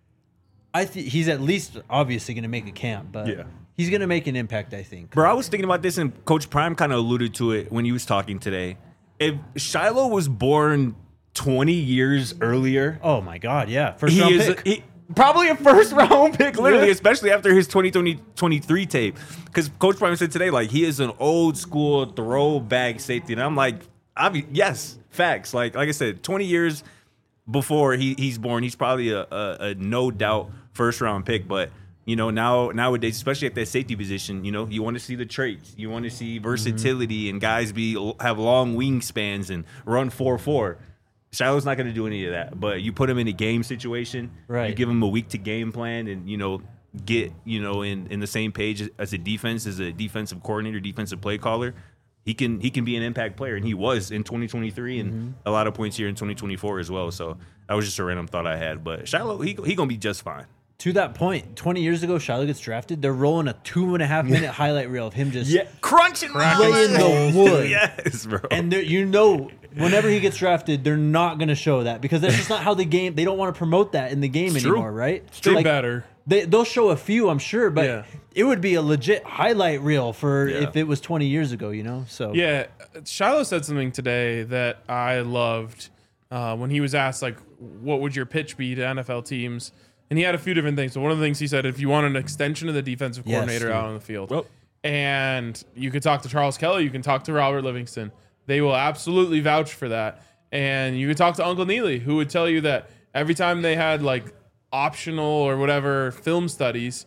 I think he's at least obviously going to make a camp, but Yeah. he's going to make an impact, I think. Bro, I was thinking about this, and Coach Prime kind of alluded to it when he was talking today. If Shiloh was born 20 years earlier, Oh, my God, yeah. First round pick. Probably a first round pick, literally, especially after his 2023 tape. Because Coach Prime said today, like, he is an old school throwback safety. And I'm like, yes, facts. Like I said, 20 years before he's born, he's probably a no doubt first round pick. But, nowadays, especially at that safety position, you want to see the traits. You want to see versatility and guys have long wingspans and run 4.4. Shiloh's not going to do any of that, but you put him in a game situation, Right. You give him a week to game plan, and get in the same page as a defensive coordinator, defensive play caller. He can be an impact player, and he was in 2023, and a lot of points here in 2024 as well. So that was just a random thought I had, but Shiloh he gonna be just fine. To that point, 20 years ago, Shiloh gets drafted. They're rolling a 2.5 minute highlight reel of him just crunching laying the wood. Yes, bro. And whenever he gets drafted, they're not going to show that because that's just not how the game. They don't want to promote that in the game It's true. anymore, right? They better. They'll show a few, I'm sure, but Yeah. it would be a legit highlight reel for Yeah. if it was 20 years ago, So Yeah, Shiloh said something today that I loved when he was asked, like, what would your pitch be to NFL teams? And he had a few different things. So one of the things he said, if you want an extension of the defensive Yes, coordinator dude. out on the field, Well- and you could talk to Charles Kelly, you can talk to Robert Livingston. They will absolutely vouch for that. And you could talk to Uncle Neely, who would tell you that every time they had like optional or whatever film studies,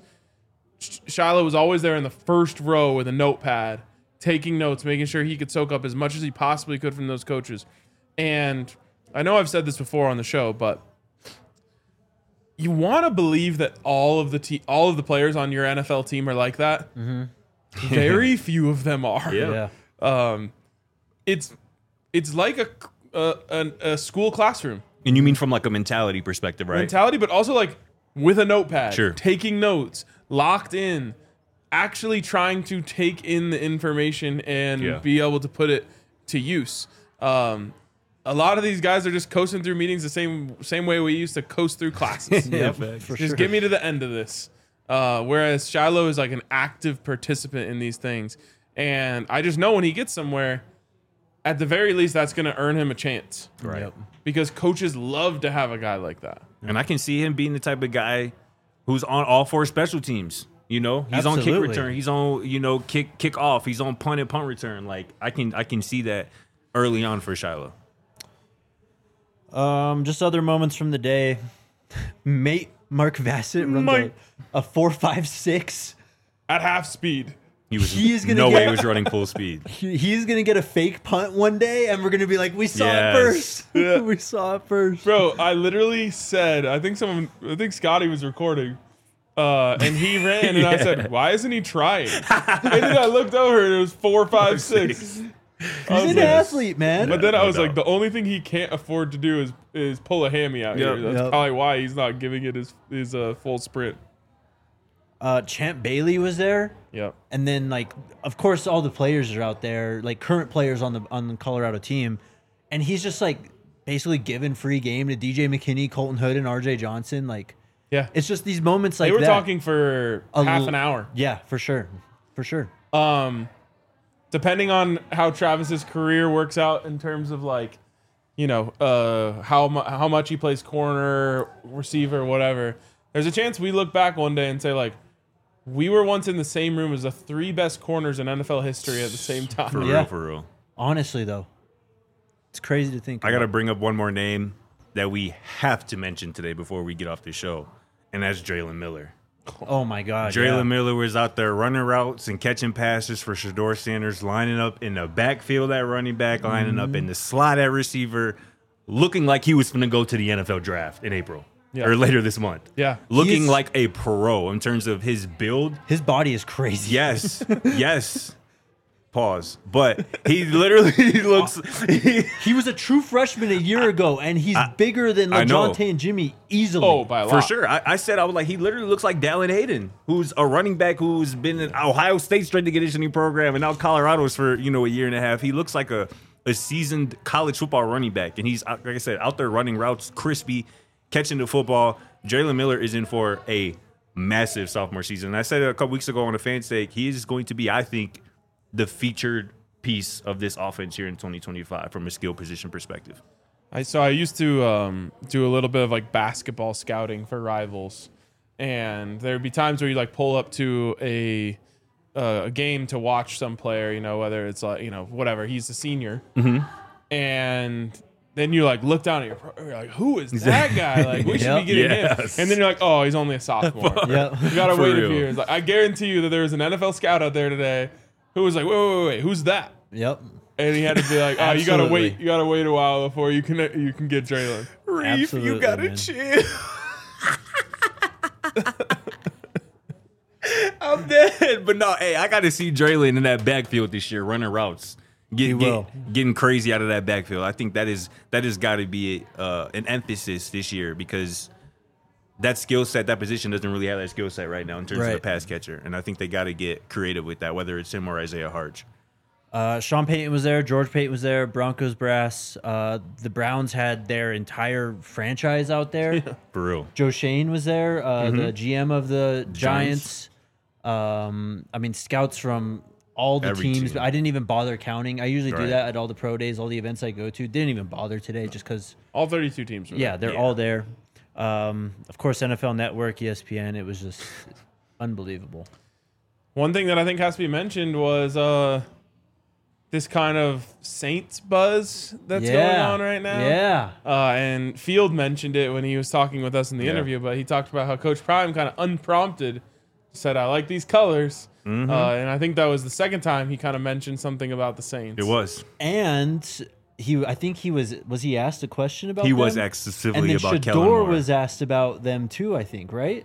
Shiloh was always there in the first row with a notepad, taking notes, making sure he could soak up as much as he possibly could from those coaches. And I know I've said this before on the show, but you want to believe that all of the players on your NFL team are like that. Very few of them are. Yeah. It's like a school classroom And you mean from like a mentality perspective, right? mentality, but also like with a notepad, Sure. taking notes, locked in, actually trying to take in the information and Yeah. be able to put it to use. A lot of these guys are just coasting through meetings the same way we used to coast through classes. for Just get me to the end of this. Whereas Shiloh is like an active participant in these things. And I just know when he gets somewhere, at the very least, that's going to earn him a chance. Right. Yep. Because coaches love to have a guy like that. And I can see him being the type of guy who's on all four special teams. He's on kick Absolutely. return. He's on kick off. He's on punt and punt return. Like I can see that early on for Shiloh. Just other moments from the day. Mate Mark Vassett runs Mate. a 4.56. At half speed. He's gonna no way get- he was running full speed. He's gonna get a fake punt one day, and we're gonna be like, "We saw Yes. it first. We saw it first." Bro, I literally said, I think Scotty was recording. And he ran, and I said, "Why isn't he trying?" And then I looked over, and it was 4, 5, 6. He's an athlete, man. But then I No was like, doubt. the only thing he can't afford to do is pull a hammy out here. Yep. That's Yep. probably why he's not giving it his full sprint. Champ Bailey was there. Yep. And then, like, of course, all the players are out there, like current players on the Colorado team, and he's just like basically giving free game to DJ McKinney, Colton Hood, and RJ Johnson. Like, Yeah. it's just these moments like They were that. talking for half an hour. Yeah, for sure, for sure. Depending on how Travis's career works out in terms of like, you know, how much he plays corner, receiver, whatever. There's a chance we look back one day and say like, we were once in the same room as the 3 best corners in NFL history at the same time. For Yeah. real, for real. Honestly, though, it's crazy to think. I got to about. bring up one more name that we have to mention today before we get off the show, and that's Jalen Miller. Oh my God, Jalen yeah. Miller was out there running routes and catching passes for Shedeur Sanders, lining up in the backfield at running back, lining up in the slot at receiver, looking like he was going to go to the NFL draft in April or later this month. Yeah. Looking He's- like a pro in terms of his build. His body is crazy. Yes. Yes. Pause. But he literally looks. He was a true freshman a year ago, and he's bigger than I know. LeJohntay and Jimmy easily. Oh, by a lot. For sure. I said, I was like, he literally looks like Dallin Hayden, who's a running back who's been in Ohio State strength and conditioning program and now Colorado's for, a year and a half. He looks like a seasoned college football running back. And he's, like I said, out there running routes, crispy, catching the football. Jalen Miller is in for a massive sophomore season. And I said it a couple weeks ago on a fan stake, he is going to be, I think, the featured piece of this offense here in 2025 from a skill position perspective. I used to do a little bit of like basketball scouting for rivals, and there would be times where you like pull up to a game to watch some player, whether it's like whatever, he's a senior, and then you like look down at you're like, who is that guy? Like we should be getting him, and then you're like, oh, he's only a sophomore. Yeah. You gotta For wait real. a few years. Like I guarantee you that there was an NFL scout out there today who was like, wait, who's that? Yep. And he had to be like, oh, Absolutely. you gotta wait a while before you can get Jalen. Reef, Absolutely, you gotta man. chill. I'm dead. But no, hey, I got to see Draylen in that backfield this year, running routes, getting crazy out of that backfield. I think that is got to be an emphasis this year because that skill set, that position doesn't really have that skill set right now in terms of the Right. pass catcher. And I think they got to get creative with that, whether it's him or Isaiah Harge. Sean Payton was there. George Payton was there. Broncos brass. The Browns had their entire franchise out there. For real. Joe Shane was there. The GM of the Giants. Giants. Scouts from all the Every teams. team. I didn't even bother counting. I usually do Right. that at all the pro days, all the events I go to. Didn't even bother today just because, All 32 teams were there. yeah, they're all there. Of course, NFL Network, ESPN. It was just unbelievable. One thing that I think has to be mentioned was this kind of Saints buzz that's going on right now. Yeah. And Field mentioned it when he was talking with us in the interview, but he talked about how Coach Prime kind of unprompted said, I like these colors. And I think that was the second time he kind of mentioned something about the Saints. It was. And I think he was he asked a question about He them? was asked And specifically then about Shador Kellen Moore. was asked about them too, I think, right?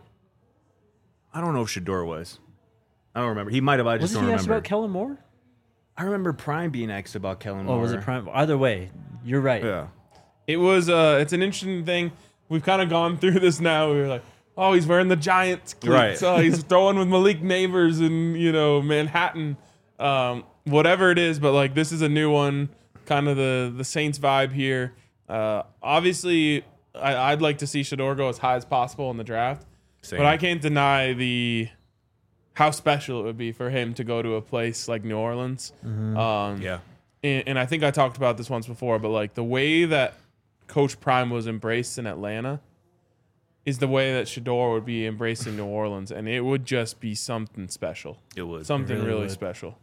I don't know if Shador was. I don't remember. He might have. I just Wasn't don't he asked remember. about Kellen Moore? I remember Prime being asked about Kellen Moore. Oh, was it Prime? Either way, you're right. Yeah. It was, it's an interesting thing. We've kind of gone through this now. We were like, oh, he's wearing the Giants cleats. Right. Oh, he's throwing with Malik Neighbors in, Manhattan. Whatever it is, but like this is a new one, kind of the Saints vibe here. Obviously, I'd like to see Shador go as high as possible in the draft, Same. but I can't deny how special it would be for him to go to a place like New Orleans. Yeah. And I think I talked about this once before, but like the way that Coach Prime was embraced in Atlanta is the way that Shador would be embraced in New Orleans, and it would just be something special. It was. Something really really would. special.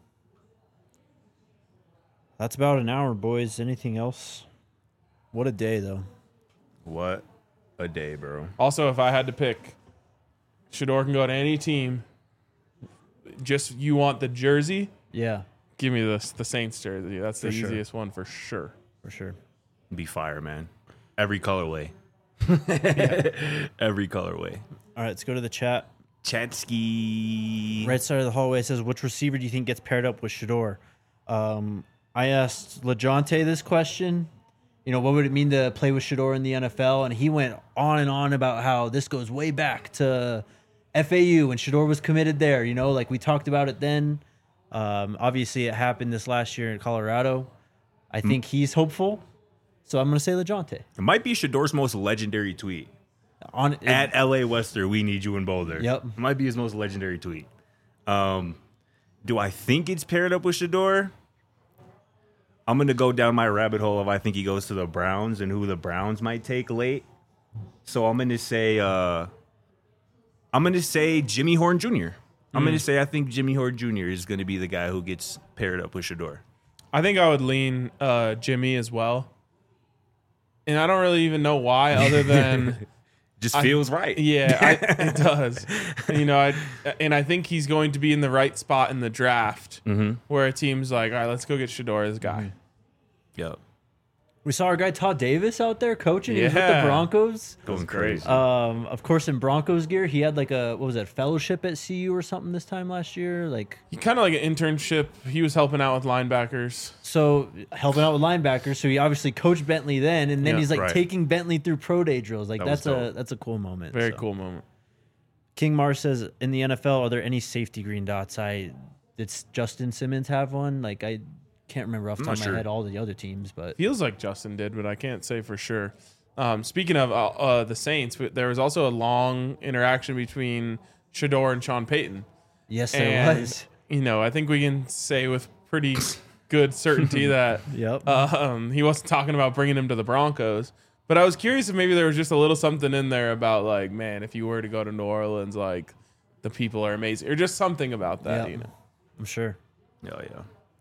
That's about an hour, boys. Anything else? What a day, though. What a day, bro. Also, if I had to pick, Shador can go to any team. Just you want the jersey? Yeah, Give me the Saints jersey. That's the For sure. easiest one for sure. for sure. Be fire, man. Every colorway. Every colorway. All right, let's go to the chat. Chatsky. Right side of the hallway says, which receiver do you think gets paired up with Shador? I asked LeJohntay this question. What would it mean to play with Shador in the NFL? And he went on and on about how this goes way back to FAU when Shador was committed there. You know, like we talked about it then. Obviously, it happened this last year in Colorado. I think he's hopeful, so I'm going to say LeJounte. It might be Shador's most legendary tweet. At LA Wester, we need you in Boulder. Yep. It might be his most legendary tweet. Do I think it's paired up with Shador? I'm going to go down my rabbit hole of I think he goes to the Browns and who the Browns might take late. So I'm going to say Jimmy Horn Jr. I'm going to say I think Jimmy Horn Jr. is going to be the guy who gets paired up with Shador. I think I would lean Jimmy as well. And I don't really even know why other than Just feels right. Yeah, it does. You know, I think he's going to be in the right spot in the draft where a team's like, all right, let's go get Shador, this guy. Yep. We saw our guy Todd Davis out there coaching. He was with the Yeah. Broncos. Going crazy. Of course, in Broncos gear, he had like a fellowship at CU or something this time last year. Like, He kind of like an internship. He was helping out with linebackers. so helping out with linebackers. So he obviously coached Bentley then, and then Yeah, he's like right. taking Bentley through pro day drills. Like That was dope. that's a cool moment. Very So. cool moment. King Mars says, in the NFL, are there any safety green dots? Did Justin Simmons have one? Like, I can't remember off the top of my head all the other teams, but Feels like Justin did, but I can't say for sure. Speaking of the Saints, there was also a long interaction between Shador and Sean Payton. yes, there And, was. you know, I think we can say with pretty good certainty that Yep. he wasn't talking about bringing him to the Broncos. But I was curious if maybe there was just a little something in there about, like, man, if you were to go to New Orleans, like, the people are amazing. Or just something about that, Yep. you know. I'm sure. Oh, yeah.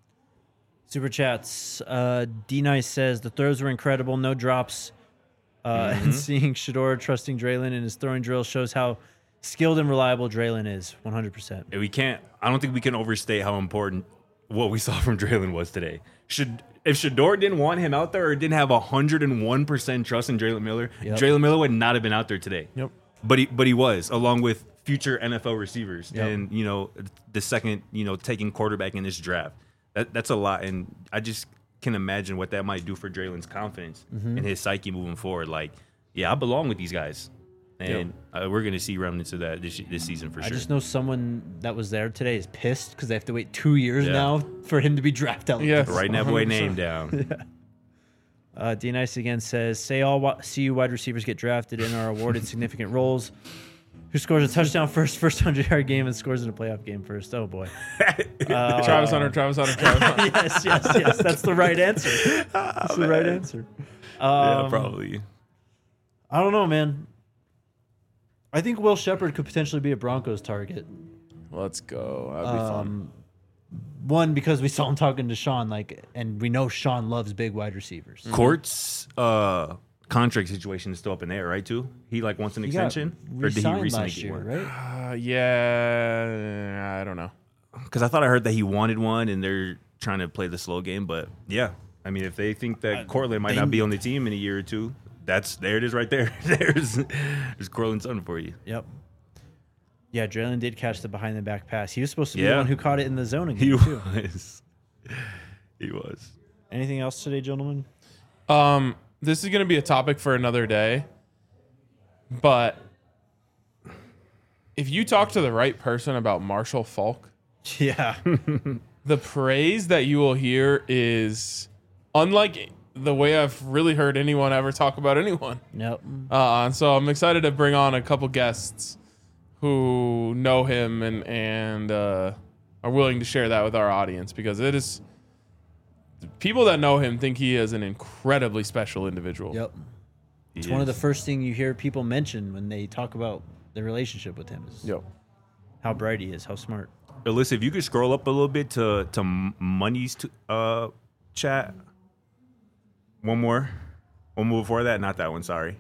Super chats. D Nice says the throws were incredible, no drops. And seeing Shador trusting Draylon in his throwing drill shows how skilled and reliable Draylon is. 100%. And I don't think we can overstate how important what we saw from Draylon was today. If Shador didn't want him out there or didn't have 101% trust in Draylon Miller, Yep. Draylon Miller would not have been out there today. Yep. But he was, along with future NFL receivers. Yep. And, you know, the second, you know, taking quarterback in this draft. That's a lot. And I just can imagine what that might do for Draylon's confidence and his psyche moving forward. Like, yeah, I belong with these guys. And we're going to see remnants of that this season for sure. I just know someone that was there today is pissed because they have to wait 2 years Yeah. now for him to be drafted. Yes. Writing that boy 100%. name down. D Nice again says, say all CU wide receivers get drafted and are awarded significant roles. Who scores a touchdown first 100-yard game and scores in a playoff game first? Oh, boy. Travis Hunter, Travis Hunter, Travis Hunter. yes. That's the right answer. That's the right answer. Yeah, probably. I don't know, man. I think Will Shepard could potentially be a Broncos target. Let's go. That'd be fun. One, because we saw him talking to Sean, and we know Sean loves big wide receivers. Court's contract situation is still up in the air, right? Too. He wants an He got extension, or did he re-signed recently last get year, one? right? Yeah, I don't know. Because I thought I heard that he wanted one, and they're trying to play the slow game. But yeah, I mean, if they think that Cortland might not be on the team in a year or two, there it is, right there. There's Cortland's son for you. Yep. Yeah, Draylon did catch the behind the back pass. He was supposed to be the Yeah. one who caught it in the zone again, He too. was. He was. Anything else today, gentlemen? This is going to be a topic for another day, but if you talk to the right person about Marshall Falk, Yeah. the praise that you will hear is unlike the way I've really heard anyone ever talk about anyone. Nope. And so I'm excited to bring on a couple guests who know him and are willing to share that with our audience, because it is people that know him think he is an incredibly special individual. Yep. It's one of the first things you hear people mention when they talk about their relationship with him is Yep. how bright he is, how smart. Alyssa, if you could scroll up a little bit to Money's chat. One more before that. Not that one. Sorry.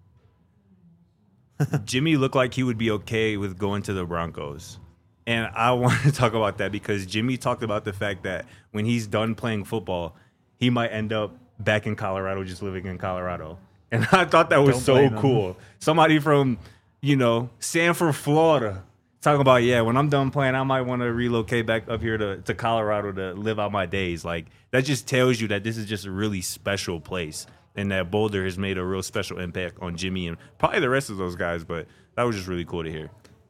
Jimmy looked like he would be okay with going to the Broncos. And I want to talk about that because Jimmy talked about the fact that when he's done playing football, he might end up back in Colorado, just living in Colorado. And I thought that was Don't so blame him. cool. Somebody from, Sanford, Florida, talking about, when I'm done playing, I might want to relocate back up here to Colorado to live out my days. Like, that just tells you that this is just a really special place and that Boulder has made a real special impact on Jimmy and probably the rest of those guys. But that was just really cool to hear.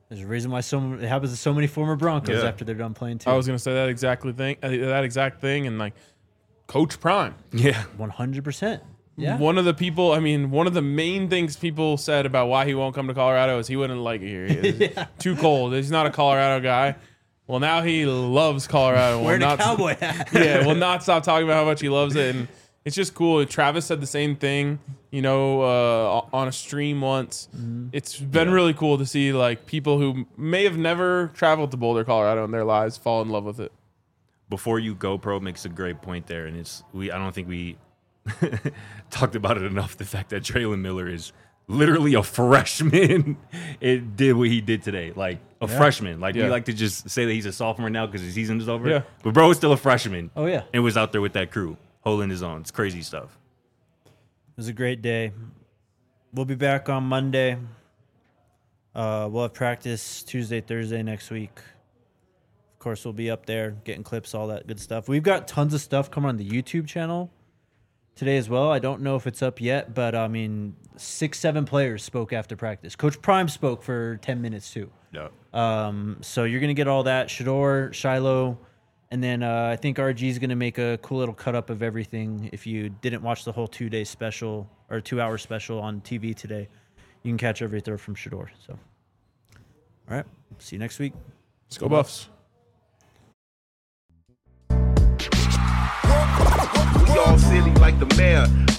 There's a reason why it happens to so many former Broncos Yeah. after they're done playing too. I was gonna say that exact thing, and like Coach Prime. Yeah. 100%. Yeah. One of the main things people said about why he won't come to Colorado is he wouldn't like it here. It's too cold. He's not a Colorado guy. Well, now he loves Colorado. Wearing a cowboy hat. Yeah, will not stop talking about how much he loves it, and it's just cool. Travis said the same thing, on a stream once. Mm-hmm. It's been really cool to see like people who may have never traveled to Boulder, Colorado in their lives fall in love with it. Before you go, Pro makes a great point there, and I don't think we talked about it enough. The fact that Traylon Miller is literally a freshman. It did what he did today, like a freshman. Like we like to just say that he's a sophomore now because his season is over. Yeah. But bro is still a freshman. Oh, yeah. And was out there with that crew, holding his own. It's crazy stuff. It was a great day. We'll be back on Monday. We'll have practice Tuesday, Thursday next week. Of course, we'll be up there getting clips, all that good stuff. We've got tons of stuff coming on the YouTube channel today as well. I don't know if it's up yet, but 6-7 players spoke after practice. Coach Prime spoke for 10 minutes too. Yeah. So you're going to get all that. Shador, Shiloh, and then I think RG is going to make a cool little cut up of everything. If you didn't watch the whole 2-day special or 2-hour special on TV today, you can catch everything from Shador. So, all right. See you next week. Let's go Buffs. We all silly like the mayor.